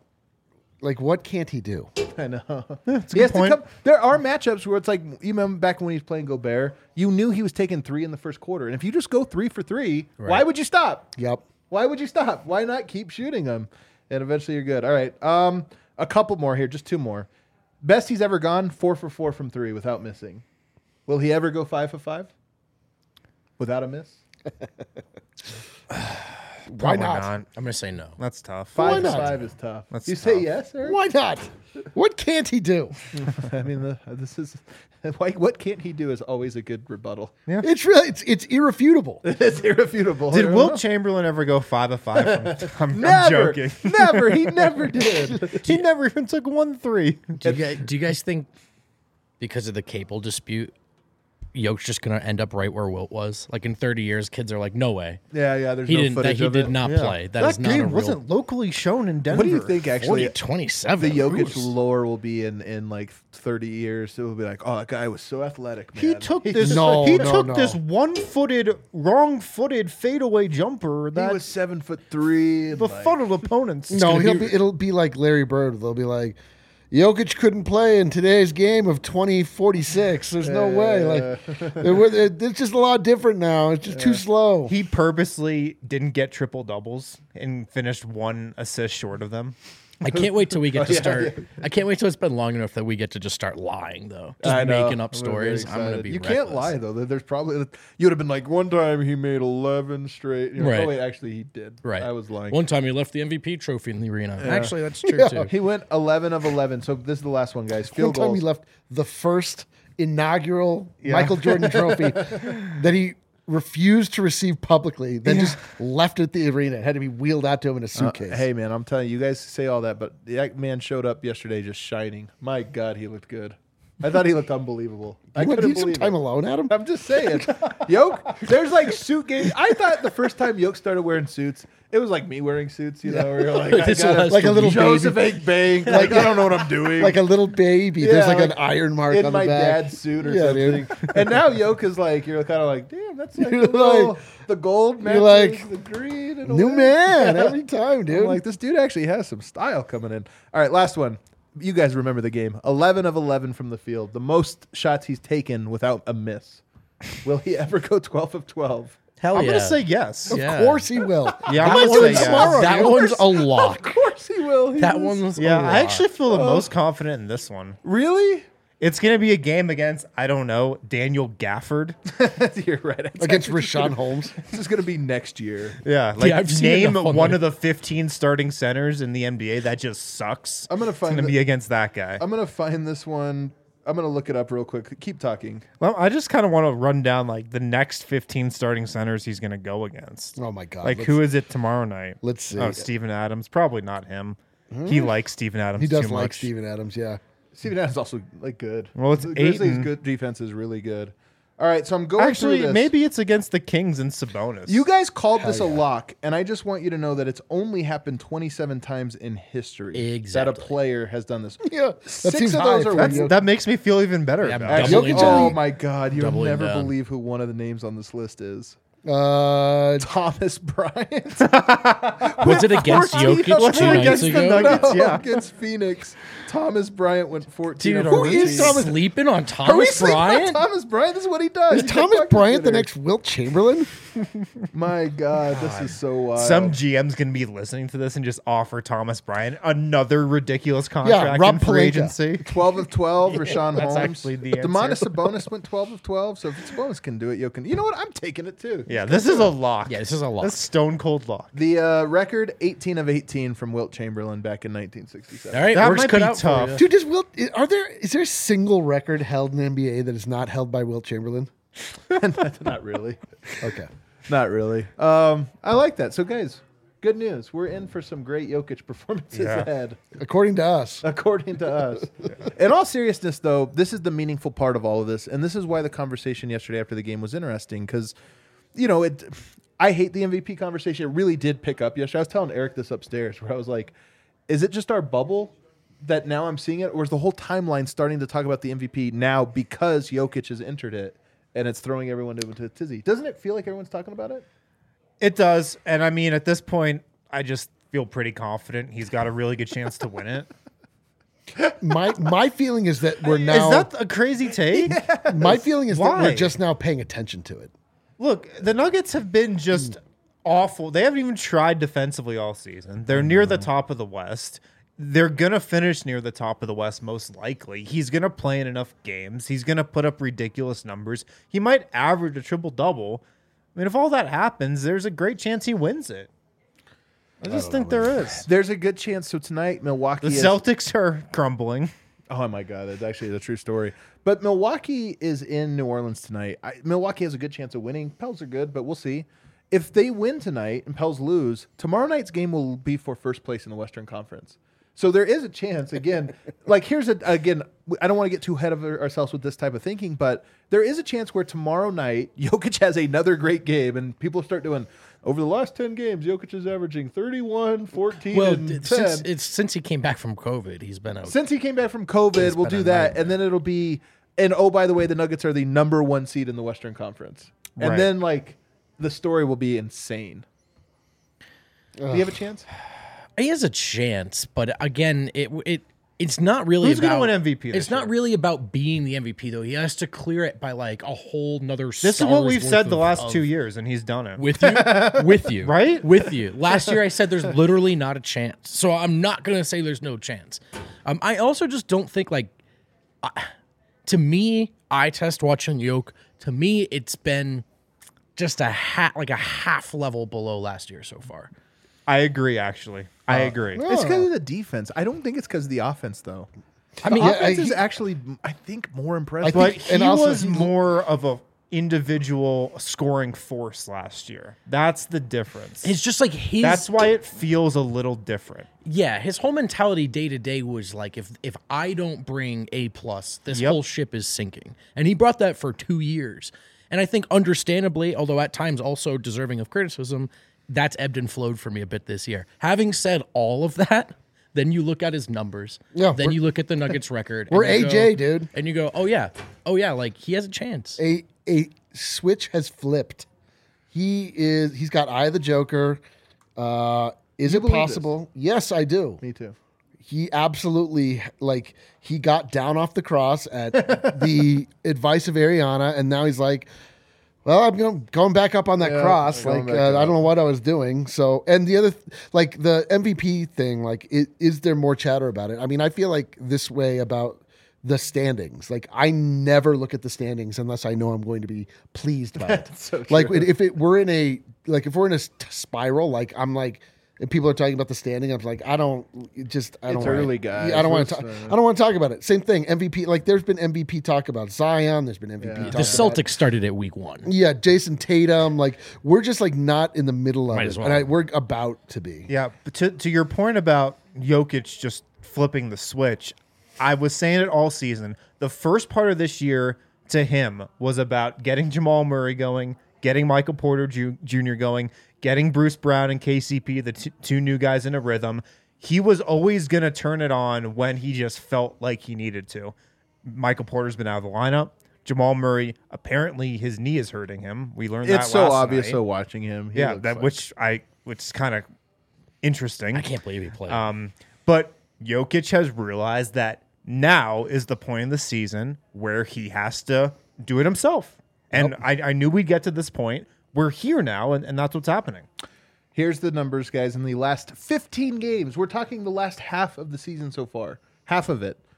can't he do? I know. It's a He has good to point. come. There are matchups where it's like, you remember back when he was playing Gobert, you knew he was taking 3 in the first quarter. And if you just go 3 for 3, why would you stop? Yep. Why would you stop? Why not keep shooting them? And eventually you're good. All right. A couple more here, just 2 more. Best he's ever gone, 4 for 4 from 3 without missing. Will he ever go 5 for 5 without a miss? Why Probably not? not. I'm gonna say no. That's tough. 5 not? 5 is tough. That's you say tough. yes, Eric? Why not? What can't he do? I mean, this is what can't he do is always a good rebuttal. It's really it's irrefutable. It's irrefutable. Did I don't Wilt know. Chamberlain ever go 5 of 5? I'm Never, joking. never. He never did. He never even took 1-3. Do you guys think because of the Capel dispute, Yoke's just gonna end up right where Wilt was? Like in 30 years, kids are like, no way. Yeah. There's He no didn't. That footage he of did it. not play. That is not game a real. wasn't locally shown in Denver. What do you think? Actually, 27. the Jokic lore will be in like 30 years. It will be like, oh, that guy was so athletic. Man. He took this. No, he no, took no. this one-footed, wrong-footed fadeaway jumper He that was 7'3". and, like, befuddled opponents. No, it'll be like Larry Bird. They'll be like, Jokic couldn't play in today's game of 2046. There's no way. Like, it's just a lot different now. It's just too slow. He purposely didn't get triple doubles and finished 1 assist short of them. I can't wait till we get to yeah, start. I can't wait till it's been long enough that we get to just start lying, though. Just I know. making up I'm gonna be very stories. I'm gonna excited. be. You can't reckless. lie though. There's probably you would have been like one time he made 11 straight. You're like, Right. oh wait, actually he did. Right. I was lying. One time he left the MVP trophy in the arena. Actually, that's true Yeah. too. He went 11 of 11. So this is the last one, guys. One Field time goals. he left the first inaugural Michael Jordan trophy that he refused to receive publicly, then just left at the arena. It had to be wheeled out to him in a suitcase. Hey man, I'm telling you, you guys say all that, but that man showed up yesterday just shining. My God, he looked good. I thought he looked unbelievable. I you want couldn't need some believe time it. alone, Adam? I'm just saying. Yoke, there's like suit games. I thought the first time Yoke started wearing suits, it was like me wearing suits, you know, where you're like, I This gotta- was like a little Joseph baby. Ake Bank. Like, I don't know what I'm doing. Like a little baby. Yeah, There's like like an iron mark in on my the back. dad's suit or Yeah, something. dude. And now Yoke is like, you're kind of like, damn, that's like, You're a little, like- the gold matches like, the green. And New away. man Yeah. every time, dude. I'm like, this dude actually has some style coming in. All right, last one. You guys remember the game. 11 of 11 from the field. The most shots he's taken without a miss. Will he ever go 12 of 12? Hell I'm yeah. gonna say yes. of yeah. course he will. Yeah, I I'm might gonna do say it yes. tomorrow. That dude. one's a lock. Of course he will. He That was- one's Yeah, a I lock. actually feel the most confident in this one. Really? It's gonna be a game against, I don't know, Daniel Gafford. You're right. It's Against actually just Rashawn gonna- Holmes. This is going to be next year. Yeah, like I've seen it name enough on one there. of the 15 starting centers in the NBA that just sucks. I'm gonna It's find gonna the- be against that guy. I'm going to find this one. I'm going to look it up real quick. Keep talking. Well, I just kind of want to run down like the next 15 starting centers he's gonna go against. Oh my god. Like Let's- who is it tomorrow night? Let's see. Oh, Steven Adams. Probably not him. He likes Steven Adams. He does too like much. Steven Adams, yeah. Steven Adams also like good. Well, it's the Grizzlies' Ayton. good defense is really good. All right, so I'm going Actually, through this. maybe it's against the Kings and Sabonis. You guys called this Hell a yeah. lock, and I just want you to know that it's only happened 27 times in history that a Exactly. player has done this. Yeah. That 6 seems of high those for are a That's, Jokic. that makes me feel even better. Yeah, about it. double- Jokic Oh only- my God, you'll Doubling never down. believe who one of the names on this list is. Thomas Thomas Bryant. Was it against 14 Jokic of 2 them. nights Against the ago? Nuggets. No, yeah. against Phoenix. Thomas Bryant went 14 Dude, of are we 14. Thomas- sleeping on Are we Thomas sleeping on Bryant? Thomas Bryant? This is what he does. Is He's a Thomas bucket Bryant the getter. next Wilt Chamberlain? My God, this is so wild. Some GM's gonna be listening to this and just offer Thomas Bryant another ridiculous contract Rob in free Pelinka. agency. 12 of 12, Rashawn that's Holmes. actually the Demonis answer. Sabonis went 12 of 12. So if Sabonis can do it, you can. You know what? I'm taking it too. Yeah, this is a lock. Yeah, this is a lock. That's stone cold lock. The record 18 of 18 from Wilt Chamberlain back in 1967. All right, That work's might cut be out tough. for you. Dude, is there a single record held in the NBA that is not held by Wilt Chamberlain? Not really. Okay. Not really. I like that. So guys, good news. We're in for some great Jokic performances Yeah. ahead. According to us. According to us. In all seriousness, though, this is the meaningful part of all of this, and this is why the conversation yesterday after the game was interesting because, you know, I hate the MVP conversation. It really did pick up yesterday. I was telling Eric this upstairs where I was like, is it just our bubble that now I'm seeing it, or is the whole timeline starting to talk about the MVP now because Jokic has entered it and it's throwing everyone into a tizzy? Doesn't it feel like everyone's talking about it? It does, and I mean, at this point, I just feel pretty confident he's got a really good chance to win it. My feeling is that we're now Is that a crazy take? my feeling is that Why? we're just now paying attention to it. Look, the Nuggets have been just awful. They haven't even tried defensively all season. They're near the top of the West. They're going to finish near the top of the West most likely. He's going to play in enough games. He's going to put up ridiculous numbers. He might average a triple-double. I mean, if all that happens, there's a great chance he wins it. I just think there is. There's a good chance. So tonight, Milwaukee. The Celtics are crumbling. Oh my God, that's actually the true story. But Milwaukee is in New Orleans tonight. Milwaukee has a good chance of winning. Pels are good, but we'll see. If they win tonight and Pels lose, tomorrow night's game will be for first place in the Western Conference. So there is a chance, again, I don't want to get too ahead of ourselves with this type of thinking, but there is a chance where tomorrow night Jokic has another great game and people start doing, over the last 10 games, Jokic is averaging 31, 14, and 10. Since he came back from COVID, he's been out. Since he came back from COVID, we'll do that. And then it'll be, and oh, by the way, the Nuggets are the number 1 seed in the Western Conference. And Right. then, the story will be insane. Do you have a chance? He has a chance, but again, it's not really Who's about going to win MVP this It's not year? really about being the MVP though. He has to clear it by a whole nother. This is what we've said the last 2 years, and he's done it. with you, Right? With you. Last year, I said there's literally not a chance, so I'm not gonna say there's no chance. I also just don't think to me, eye test watching Yoke. To me, it's been just a half level below last year so far. I agree, actually. I agree. It's because of the defense. I don't think it's because of the offense, though. I mean, The offense is actually, I think, more impressive. But think- he and also was he- more of a individual scoring force last year. That's the difference. it's just his. That's why it feels a little different. Yeah, his whole mentality day to day was if I don't bring A plus, this Yep. whole ship is sinking. And he brought that for 2 years. And I think understandably, although at times also deserving of criticism, that's ebbed and flowed for me a bit this year. Having said all of that, then you look at his numbers. Yeah, then you look at the Nuggets record. We're and you AJ, go- dude. And you go, oh yeah, he has a chance. A switch has flipped. He's got Eye of the Joker. Is it believe possible? Yes, I do. Me too. He absolutely he got down off the cross at the advice of Ariana, and now he's like, well, I'm going back up on that cross. going Like back I up. don't know what I was doing. So, and the other the MVP thing, is there more chatter about it? I mean, I feel this way about the standings. I never look at the standings unless I know I'm going to be pleased by it. So true. If we're in a spiral, and people are talking about the standing, I'm like, I don't early, guys. I don't want Let's, to. I don't want to talk about it. Same thing. MVP. There's been MVP talk about Zion. There's been MVP. Yeah. Talk The about, Celtics started at week 1. yeah, Jason Tatum. We're just not in the middle of Might it, as well. and we're about to be. Yeah, but to your point about Jokic just flipping the switch, I was saying it all season. The first part of this year to him was about getting Jamal Murray going, getting Michael Porter Jr. going, getting Bruce Brown and KCP, the two new guys, in a rhythm. He was always going to turn it on when he just felt like he needed to. Michael Porter's been out of the lineup. Jamal Murray, apparently his knee is hurting him. We learned that It's so last obvious. night. So watching him, he Yeah, looks that like- which is kind of interesting. I can't believe he played. But Jokic has realized that now is the point in the season where he has to do it himself. And I knew we'd get to this point. We're here now, and that's what's happening. Here's the numbers, guys. In the last 15 games, we're talking the last half of the season so far. Half of it.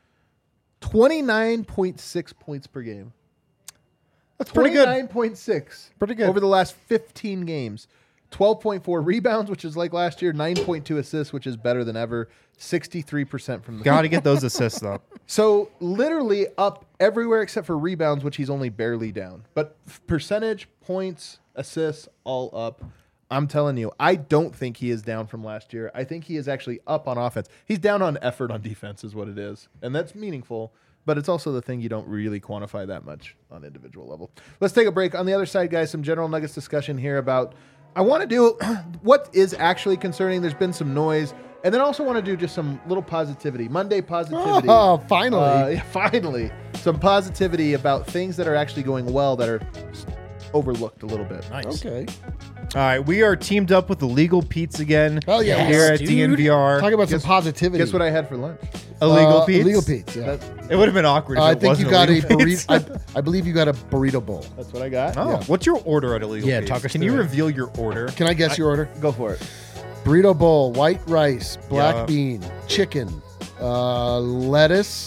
29.6 points per game. That's pretty good. 29.6. Pretty good. Over the last 15 games. 12.4 rebounds, which is like last year. 9.2 assists, which is better than ever. 63% from the Got to get those assists up. So literally up everywhere except for rebounds, which he's only barely down. But percentage, points, assists, all up. I'm telling you, I don't think he is down from last year. I think he is actually up on offense. He's down on effort on defense is what it is. And that's meaningful, but it's also the thing you don't really quantify that much on individual level. Let's take a break. On the other side, guys, some general Nuggets discussion here about I want to do what is actually concerning. There's been some noise. And then I also want to do just some little positivity. Monday positivity. Oh, finally. Yeah, finally. Some positivity about things that are actually going well that are overlooked a little bit. Nice. Okay. All right, we are teamed up with Illegal Pete's again. Hell yeah. Here Yes, at dude. DNVR. Talk about some positivity. Guess what I had for lunch? Illegal Pete's. Illegal Pete's. Yeah. It would have been awkward if I it think wasn't you got a Illegal Pete's. burrito. I believe you got a burrito bowl. That's what I got. Oh, Yeah. what's your order at Illegal Yeah, Pete's? talk us Can through you it. reveal your order? Can I guess your order? Go for it. Burrito bowl, white rice, black Yeah. bean, chicken, lettuce,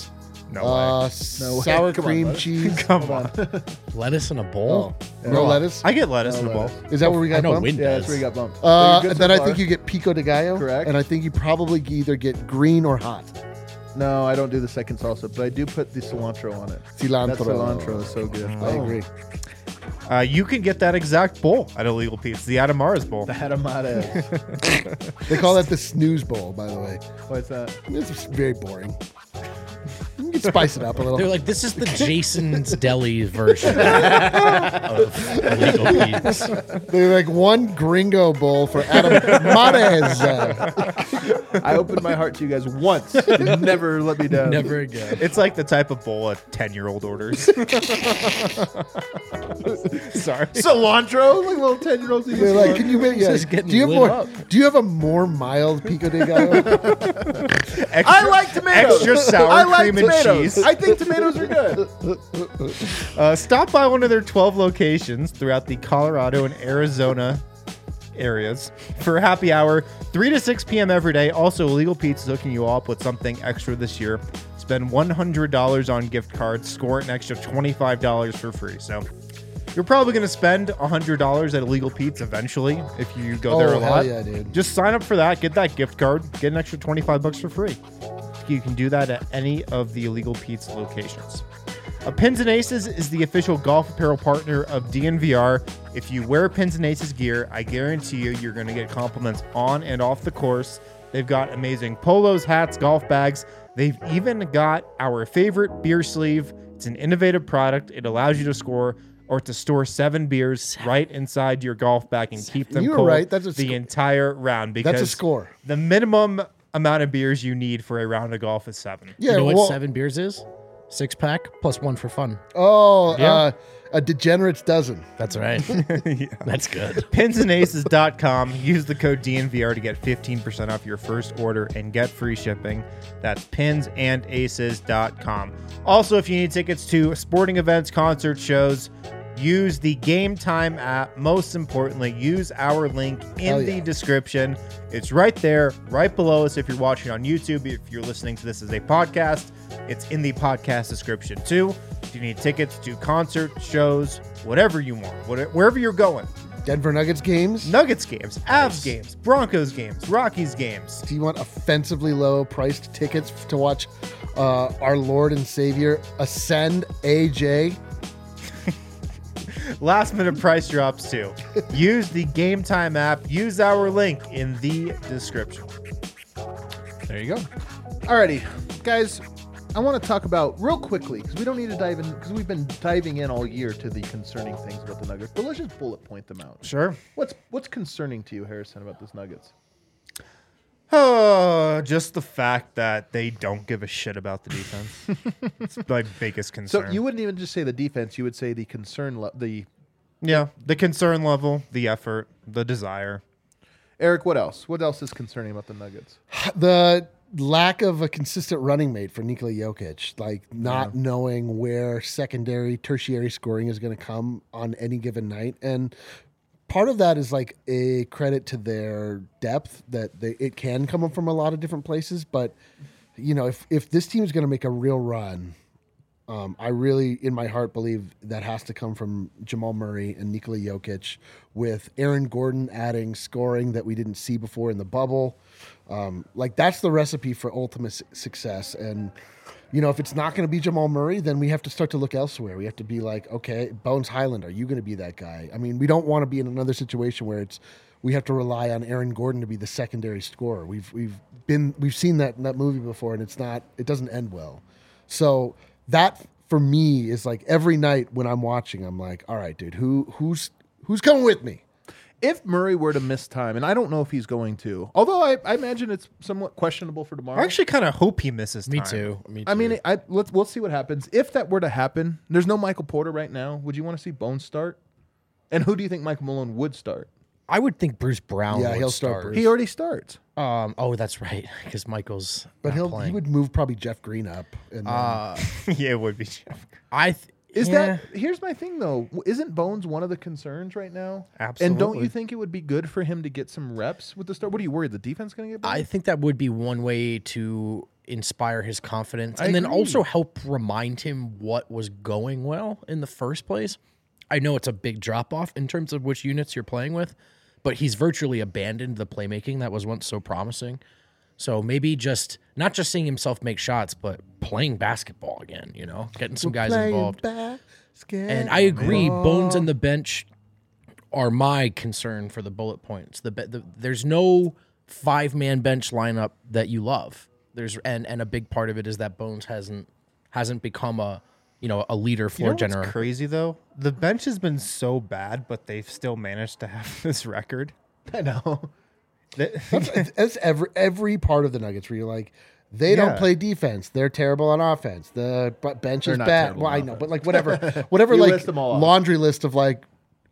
No way. Sour Come on, cream bud. cheese. Come on. Lettuce in a bowl. No lettuce. I get lettuce in a bowl. Is that where we I got know bumped? Win Yeah, that's does. where you got bumped. So you're good And so then I far. think you get pico de gallo. Correct. And I think you probably either get green or hot. No, I don't do the second salsa, but I do put the cilantro on it. Cilantro. That cilantro is so good. I agree. You can get that exact bowl at Illegal Pete's, the Adamares bowl. The Hadamades. They call that the snooze bowl, by the way. What's that? It's very boring. You can spice it up a little. They're like, this is the Jason's Deli version of Illegal Pete's. They're like one gringo bowl for Adam Mares. I opened my heart to you guys once. Never let me down. Never again. It's like the type of bowl a 10-year-old orders. Sorry. Cilantro? Like little 10-year-olds. They're like, can you make? Yeah. is getting Do you have lit more? up. Do you have a more mild pico de gallo? Extra, I like tomatoes. Extra sour I like cream and tomatoes. cheese. I think tomatoes are good. Stop by one of their 12 locations throughout the Colorado and Arizona areas for a happy hour, 3 to 6 p.m. every day. Also, Illegal Pete's is hooking you up with something extra this year. Spend $100 on gift cards, score an extra $25 for free. So you're probably going to spend $100 at Illegal Pete's eventually if you go there a hell lot. yeah, dude. Just sign up for that, get that gift card, get an extra $25 for free. You can do that at any of the Illegal Pete's locations. Pins and Aces is the official golf apparel partner of DNVR. If you wear Pins and Aces gear, I guarantee you're going to get compliments on and off the course. They've got amazing polos, hats, golf bags. They've even got our favorite beer sleeve. It's an innovative product. It allows you to score or to store 7 beers right inside your golf bag and keep them You were cold right. That's a the sco- entire round. Because That's a score. the minimum amount of beers you need for a round of golf is 7. Yeah. You know what well, 7 beers is? 6-pack plus 1 for fun. Oh, Yeah. a degenerate's dozen. That's right. That's good. Pinsandaces.com. Use the code DNVR to get 15% off your first order and get free shipping. That's pinsandaces.com. Also, if you need tickets to sporting events, concert shows, use the Game Time app. Most importantly, use our link in Hell the yeah. description. It's right there, right below us if you're watching on YouTube. If you're listening to this as a podcast, it's in the podcast description too. If you need tickets to concert, shows, whatever you want, wherever you're going. Denver Nuggets games. Nuggets games, Avs games, Broncos games, Rockies games. Do you want offensively low priced tickets to watch our Lord and Savior ascend AJ? Last minute price drops too. Use the Game Time app. Use our link in the description. There you go. Alrighty, guys. I want to talk about real quickly because we don't need to dive in because we've been diving in all year to the concerning things about the Nuggets. But let's just bullet point them out. Sure. What's concerning to you, Harrison, about this Nuggets? Just the fact that they don't give a shit about the defense. It's my biggest concern. So you wouldn't even just say the defense; you would say the concern. The concern level, the effort, the desire. Eric, what else? What else is concerning about the Nuggets? The lack of a consistent running mate for Nikola Jokic, like not knowing where secondary, tertiary scoring is going to come on any given night. And part of that is like a credit to their depth that it can come from a lot of different places. But, you know, if this team is going to make a real run, I really, in my heart, believe that has to come from Jamal Murray and Nikola Jokic, with Aaron Gordon adding scoring that we didn't see before in the bubble. Like that's the recipe for ultimate success. And, you know, if it's not going to be Jamal Murray, then we have to start to look elsewhere. We have to be like, okay, Bones Highland, are you going to be that guy? I mean, we don't want to be in another situation where we have to rely on Aaron Gordon to be the secondary scorer. We've seen that in that movie before, and it doesn't end well. So that for me is like every night when I'm watching, I'm like, all right, dude, who's coming with me? If Murray were to miss time, and I don't know if he's going to, although I imagine it's somewhat questionable for tomorrow. I actually kind of hope he misses time. Me too. I mean, we'll see what happens. If that were to happen, there's no Michael Porter right now. Would you want to see Bones start? And who do you think Michael Malone would start? I would think Bruce Brown would he'll start start. Bruce. He already starts. Oh, that's right, because Michael's But not he playing. would move probably Jeff Green up. And then, Yeah, it would be Jeff. Here's my thing though. Isn't Bones one of the concerns right now? Absolutely. And don't you think it would be good for him to get some reps with the start? What are you worried? The defense going to get better? I think that would be one way to inspire his confidence I and then agree. also help remind him what was going well in the first place. I know it's a big drop off in terms of which units you're playing with, but he's virtually abandoned the playmaking that was once so promising. So maybe just not just seeing himself make shots, but playing basketball again, getting some guys involved. And I agree, Bones and the bench are my concern for the bullet points. There's no 5-man bench lineup that you love. And a big part of it is that Bones hasn't become a leader floor general. What's crazy though? The bench has been so bad, but they've still managed to have this record. I know. That's every part of the Nuggets where you're like, they don't play defense. They're terrible on offense. The bench is not bad. terrible Well, on I know, but like whatever You like list them all off. laundry list of like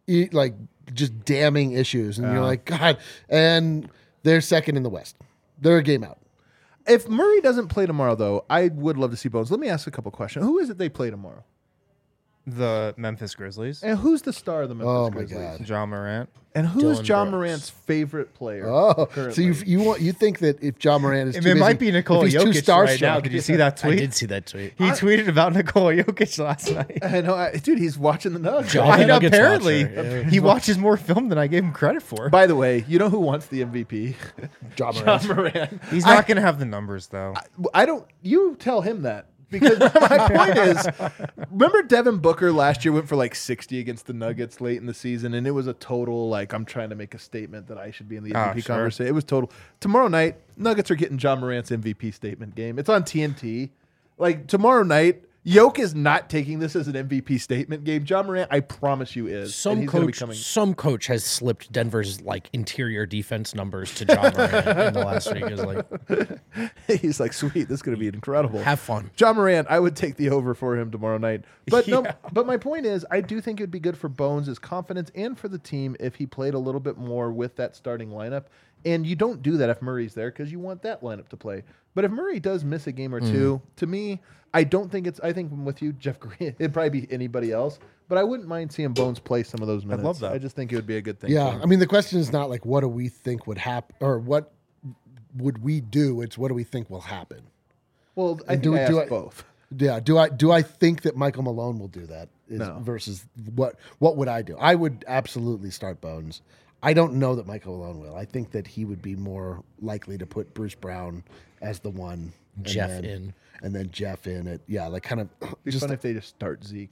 just damning issues, and you're like, God. And they're second in the West. They're a game out. If Murray doesn't play tomorrow, though, I would love to see Bones. Let me ask a couple questions. Who is it they play tomorrow? The Memphis Grizzlies. And who's the star of the Memphis Oh my Grizzlies? God. John Morant. And who's Dylan John Brooks. Morant's favorite player? Oh, currently? so you think that if John Morant is It too busy, might be Nikola if he's too Jokic right starstruck, now. Did you see that I tweet? did see that tweet. He tweeted about Nikola Jokic last night. I know, dude. He's watching the Nuggets. John- I know, Nuggets apparently, watcher, yeah. he watches more film than I gave him credit for. By the way, you know who wants the MVP? John Morant. John Morant. He's not going to have the numbers, though. I don't. You tell him that. Because my point is, remember Devin Booker last year went for like 60 against the Nuggets late in the season, and it was a total like I'm trying to make a statement that I should be in the MVP sure. conversation. It was total. Tomorrow night, Nuggets are getting John Morant's MVP statement game. It's on TNT. Like tomorrow night, Yoke is not taking this as an MVP statement game. John Morant, I promise you, is. And Some he's gonna be coach, coming. some coach has slipped Denver's like interior defense numbers to John Morant in the last week. Is like, He's like, sweet, this is going to be incredible. have fun. John Morant, I would take the over for him tomorrow night. But no, but my point is, I do think it would be good for Bones' confidence and for the team if he played a little bit more with that starting lineup. And you don't do that if Murray's there because you want that lineup to play. But if Murray does miss a game or two, to me, I don't think it's. I think I'm with you, Jeff Green. It'd probably be anybody else, but I wouldn't mind seeing Bones play some of those minutes. love that. I just think it would be a good thing. Yeah, for him. I mean, the question is not like what do we think would happen or what would we do. It's what do we think will happen. Well, I do- think I do asked I- both. Yeah, do I think that Michael Malone will do that? No. Versus what would I do? I would absolutely start Bones. I don't know that Michael Malone will. I think that he would be more likely to put Bruce Brown as the one, and Jeff then- in. and then Jeff in it. Yeah, like kind of It'd be just fun if they just start Zeke.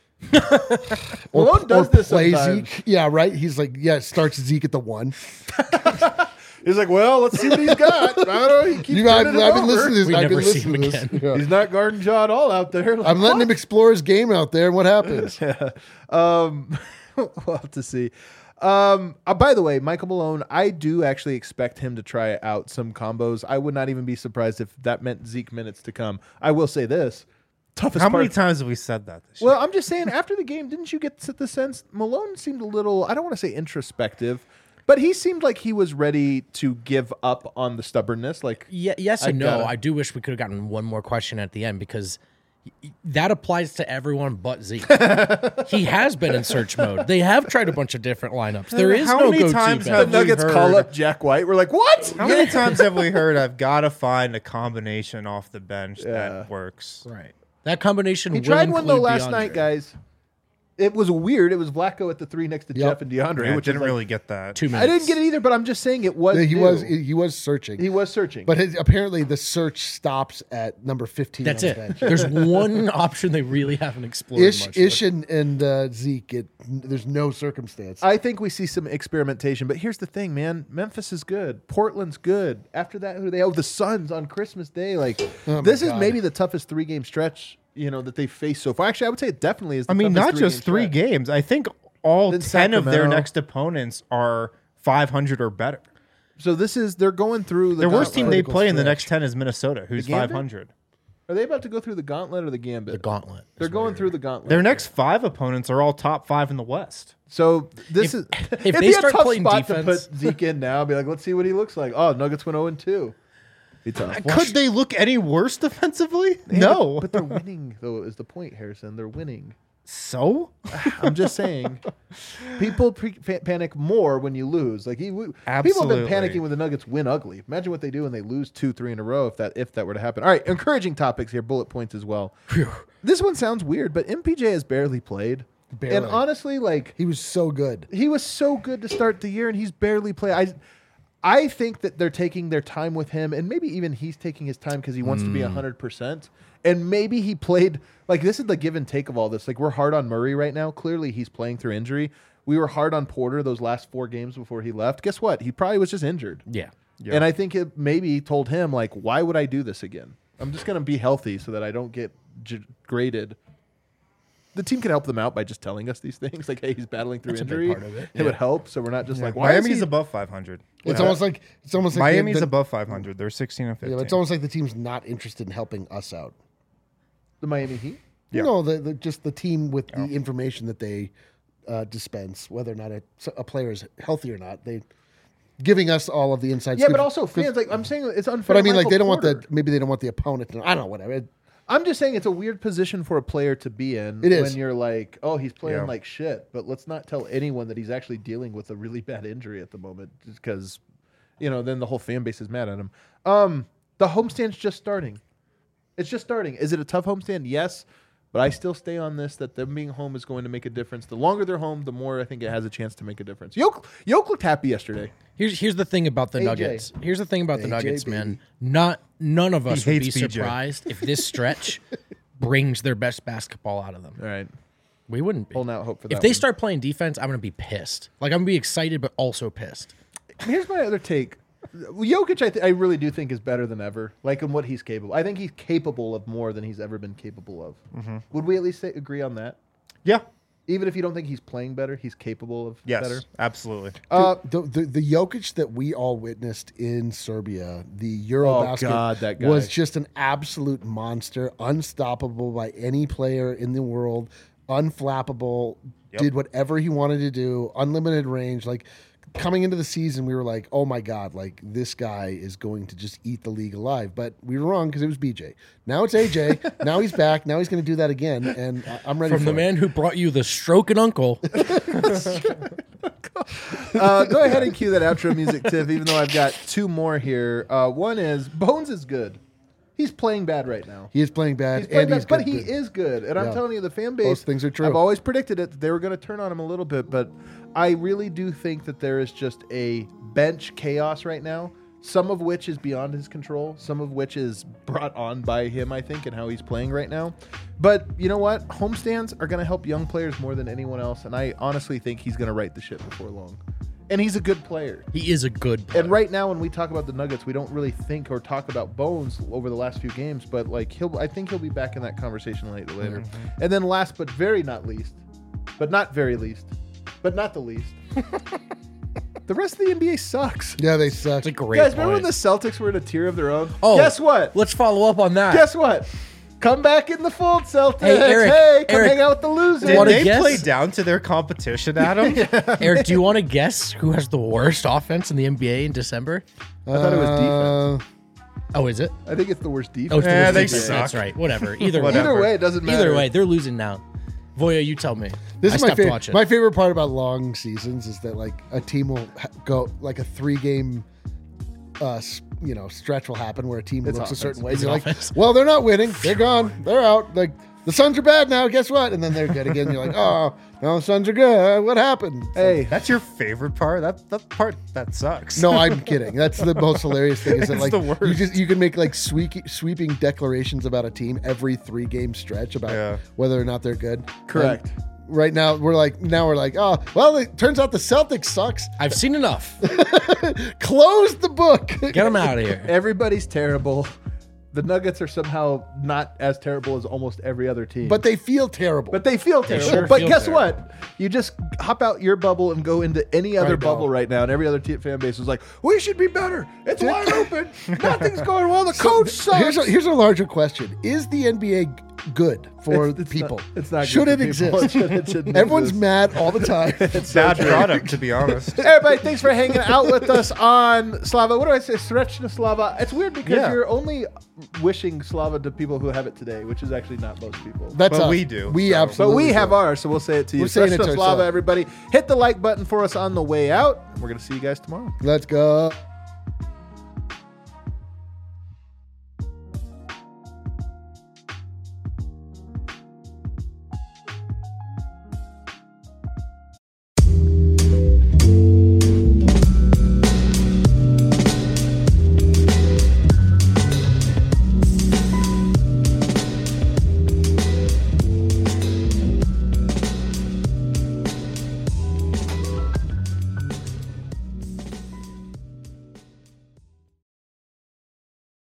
or, Malone does or this play sometimes. Zeke. Yeah, right. He's like, starts Zeke at the 1. He's like, well, let's see what he's got. I don't know. He keeps I've turning it been over. listening to this. We I've never been see listening him to this. again. Yeah. He's not guarding John all out there. Like, I'm letting him explore his game out there, and what happens? We'll have to see. By the way, Michael Malone, I do actually expect him to try out some combos. I would not even be surprised if that meant Zeke minutes to come. I will say this. Toughest How part. many times have we said that this year? Well, I'm just saying, after the game, didn't you get the sense Malone seemed a little, I don't want to say introspective, but he seemed like he was ready to give up on the stubbornness. Like, Yeah, yes I and no. gotta- I do wish we could have gotten one more question at the end because that applies to everyone but Zeke. He has been in search mode. They have tried a bunch of different lineups. There is How no many go-to times the have bench. we Nuggets heard- call up Jack White. We're like, what? How many times have we heard I've got to find a combination off the bench Yeah. that works? Right. That combination He will tried one though include last DeAndre. night, guys. It was weird. It was Vlaco at the 3 next to Yep. Jeff and DeAndre, I which didn't is like, really get that. 2 minutes. I didn't get it either, but I'm just saying it was. He new. was searching. He was searching. But apparently the search stops at number 15. That's on the it. bench. There's one option they really haven't explored much. Ish and Zeke. There's no circumstance. I think we see some experimentation, but here's the thing, man. Memphis is good. Portland's good. After that, who do they have? The Suns on Christmas Day. Like Oh my this is God. maybe the toughest 3-game stretch, that they faced so far. Actually, I would say it definitely is. The I mean, toughest not just 3 3-game stretch. games. I think all Then 10 of their Sacramento. next opponents are 500 or better. So they're going through the The worst team gauntlet. they critical play in the stretch. next 10 is Minnesota, who's Gambit? 500. Are they about to go through the gauntlet or the gambit? The gauntlet. They're going through the gauntlet. Their next 5 opponents are all top 5 in the West. So this If- is if it'd they be a start tough playing spot defense- to put Zeke in now. Be like, let's see what he looks like. Oh, Nuggets went 0-2. Be tough. Could they look any worse defensively? No. but they're winning though. Is the point, Harrison? They're winning. So I'm just saying, people panic more when you lose. Like people have been Absolutely. panicking when the Nuggets win ugly. Imagine what they do when they lose 2-3 in a row. If that were to happen. All right, encouraging topics here, bullet points as well. This one sounds weird, but MPJ has barely played. Barely. And honestly, like He was so good. he was so good to start the year, and he's barely played. I think that they're taking their time with him, and maybe even he's taking his time because he wants to be 100%. And maybe he played like this is the give and take of all this. Like we're hard on Murray right now. Clearly, he's playing through injury. We were hard on Porter those last 4 games before he left. Guess what? He probably was just injured. Yeah. Yeah. And I think it maybe told him like, why would I do this again? I'm just gonna be healthy so that I don't get graded. The team can help them out by just telling us these things. Like, hey, he's battling through That's a big injury. part of it. It would help, so we're not just like, why Miami's is he? above 500. It's almost like Miami's the, above 500. They're 16 and 15. Yeah, but it's almost like the team's not interested in helping us out. The Miami Heat. Yeah. No, just the team with the information that they dispense, whether or not a player is healthy or not, they giving us all of the insights. Yeah, but also fans. Like I'm saying, it's unfair. But I mean, like Michael they don't want Porter. maybe they don't want the opponent. I don't know, whatever. I'm just saying it's a weird position for a player to be in It is. when you're like, oh, he's playing Yeah. like shit. But let's not tell anyone that he's actually dealing with a really bad injury at the moment, just because, then the whole fan base is mad at him. The homestand's just starting. It's just starting. Is it a tough homestand? Yes. But I still stay on this that them being home is going to make a difference. The longer they're home, the more I think it has a chance to make a difference. Yoke looked happy yesterday. Here's the thing about the AJ. Nuggets. Here's the thing about the AJ, Nuggets, baby. man. None of us He would be hates PJ. surprised if this stretch brings their best basketball out of them. All right. We wouldn't be. Holding out hope for that If they one. start playing defense, I'm gonna be pissed. Like I'm gonna be excited, but also pissed. Here's my other take. Jokic, I really do think is better than ever. Like in what he's capable. I think he's capable of more than he's ever been capable of. Would we at least agree on that? Yeah. Even if you don't think he's playing better, he's capable of Yes. better. Absolutely. The Jokic that we all witnessed in Serbia, the Eurobasket, God, that guy. was just an absolute monster, unstoppable by any player in the world, unflappable, did whatever he wanted to do, unlimited range. Like coming into the season, we were like, oh my God, like this guy is going to just eat the league alive. But we were wrong because it was BJ. Now it's AJ. Now he's back. Now he's going to do that again. And I'm ready From for the it. man who brought you the stroking uncle. Go ahead and cue that outro music, Tiff, even though I've got 2 more here. One is Bones is good. He's playing bad right now. He is playing bad, He's playing and he's bad, good. but he is good. And I'm Yeah. telling you, the fan base. Both things are true. I've always predicted it. That they were going to turn on him a little bit, but I really do think that there is just a bench chaos right now. Some of which is beyond his control. Some of which is brought on by him, I think, and how he's playing right now. But you know what? Homestands are going to help young players more than anyone else, and I honestly think he's going to right the ship before long. And he's a good player. He is a good player. And right now, when we talk about the Nuggets, we don't really think or talk about Bones over the last few games. But like I think he'll be back in that conversation later. And then last but very not least, but not very least, but not the least, the rest of the NBA sucks. Yeah, they suck. It's a great Guys, remember when point. the Celtics were in a tier of their own? Oh, Guess what? Let's follow up on that. Guess what? Come back in the fold, Celtics. Hey, Eric, Hey, come Eric, hang out with the losers. Did Wanna they guess? play down to their competition, Adam? Eric, do you want to guess who has the worst offense in the NBA in December? I thought it was defense. Oh, is it? I think it's the worst defense. Oh, it's the Eh, worst they defense. suck. That's right. Whatever. Either way. Whatever. Either way, it doesn't matter. Either way, they're losing now. Voya, you tell me. This I is my stopped favorite. watching. My favorite part about long seasons is that like a team will go like a 3-game, stretch will happen where a team It's looks a certain offense. way. It's You're like, offense. well, they're not winning. They're gone. They're out. Like the Suns are bad now. Guess what? And then they're good again. You're like, oh, no, the Suns are good. What happened? Hey, That's your favorite part? That part that sucks. No, I'm kidding. That's the most hilarious thing. Is that It's like the worst. you can make like sweeping declarations about a team every 3-game stretch about whether or not they're good. correct. And right now we're like, oh, well, it turns out the Celtics sucks. I've seen enough. Close the book. Get them out of here. Everybody's terrible. The Nuggets are somehow not as terrible as almost every other team. But they feel terrible. But they feel terrible. sure but feel guess terrible. what? You just hop out your bubble and go into any other Right, bubble no. right now, and every other fan base is like, we should be better. It's wide open. Nothing's going well. The coach sucks. Here's a larger question: is the NBA good for It's people. Not, it's not. Should good it for people. exist? It shouldn't Everyone's exist. mad all the time. It's Bad so true. product, to be honest. Everybody, thanks for hanging out with us on Slava. What do I say? Srečna Slava. It's weird because Yeah. you're only wishing Slava to people who have it today, which is actually not most people. That's But us. we do, We so. But absolutely. we have do. ours, so we'll say it to you. We're saying it to Srečna Slava, ourselves. everybody. Hit the like button for us on the way out. We're going to see you guys tomorrow. Let's go.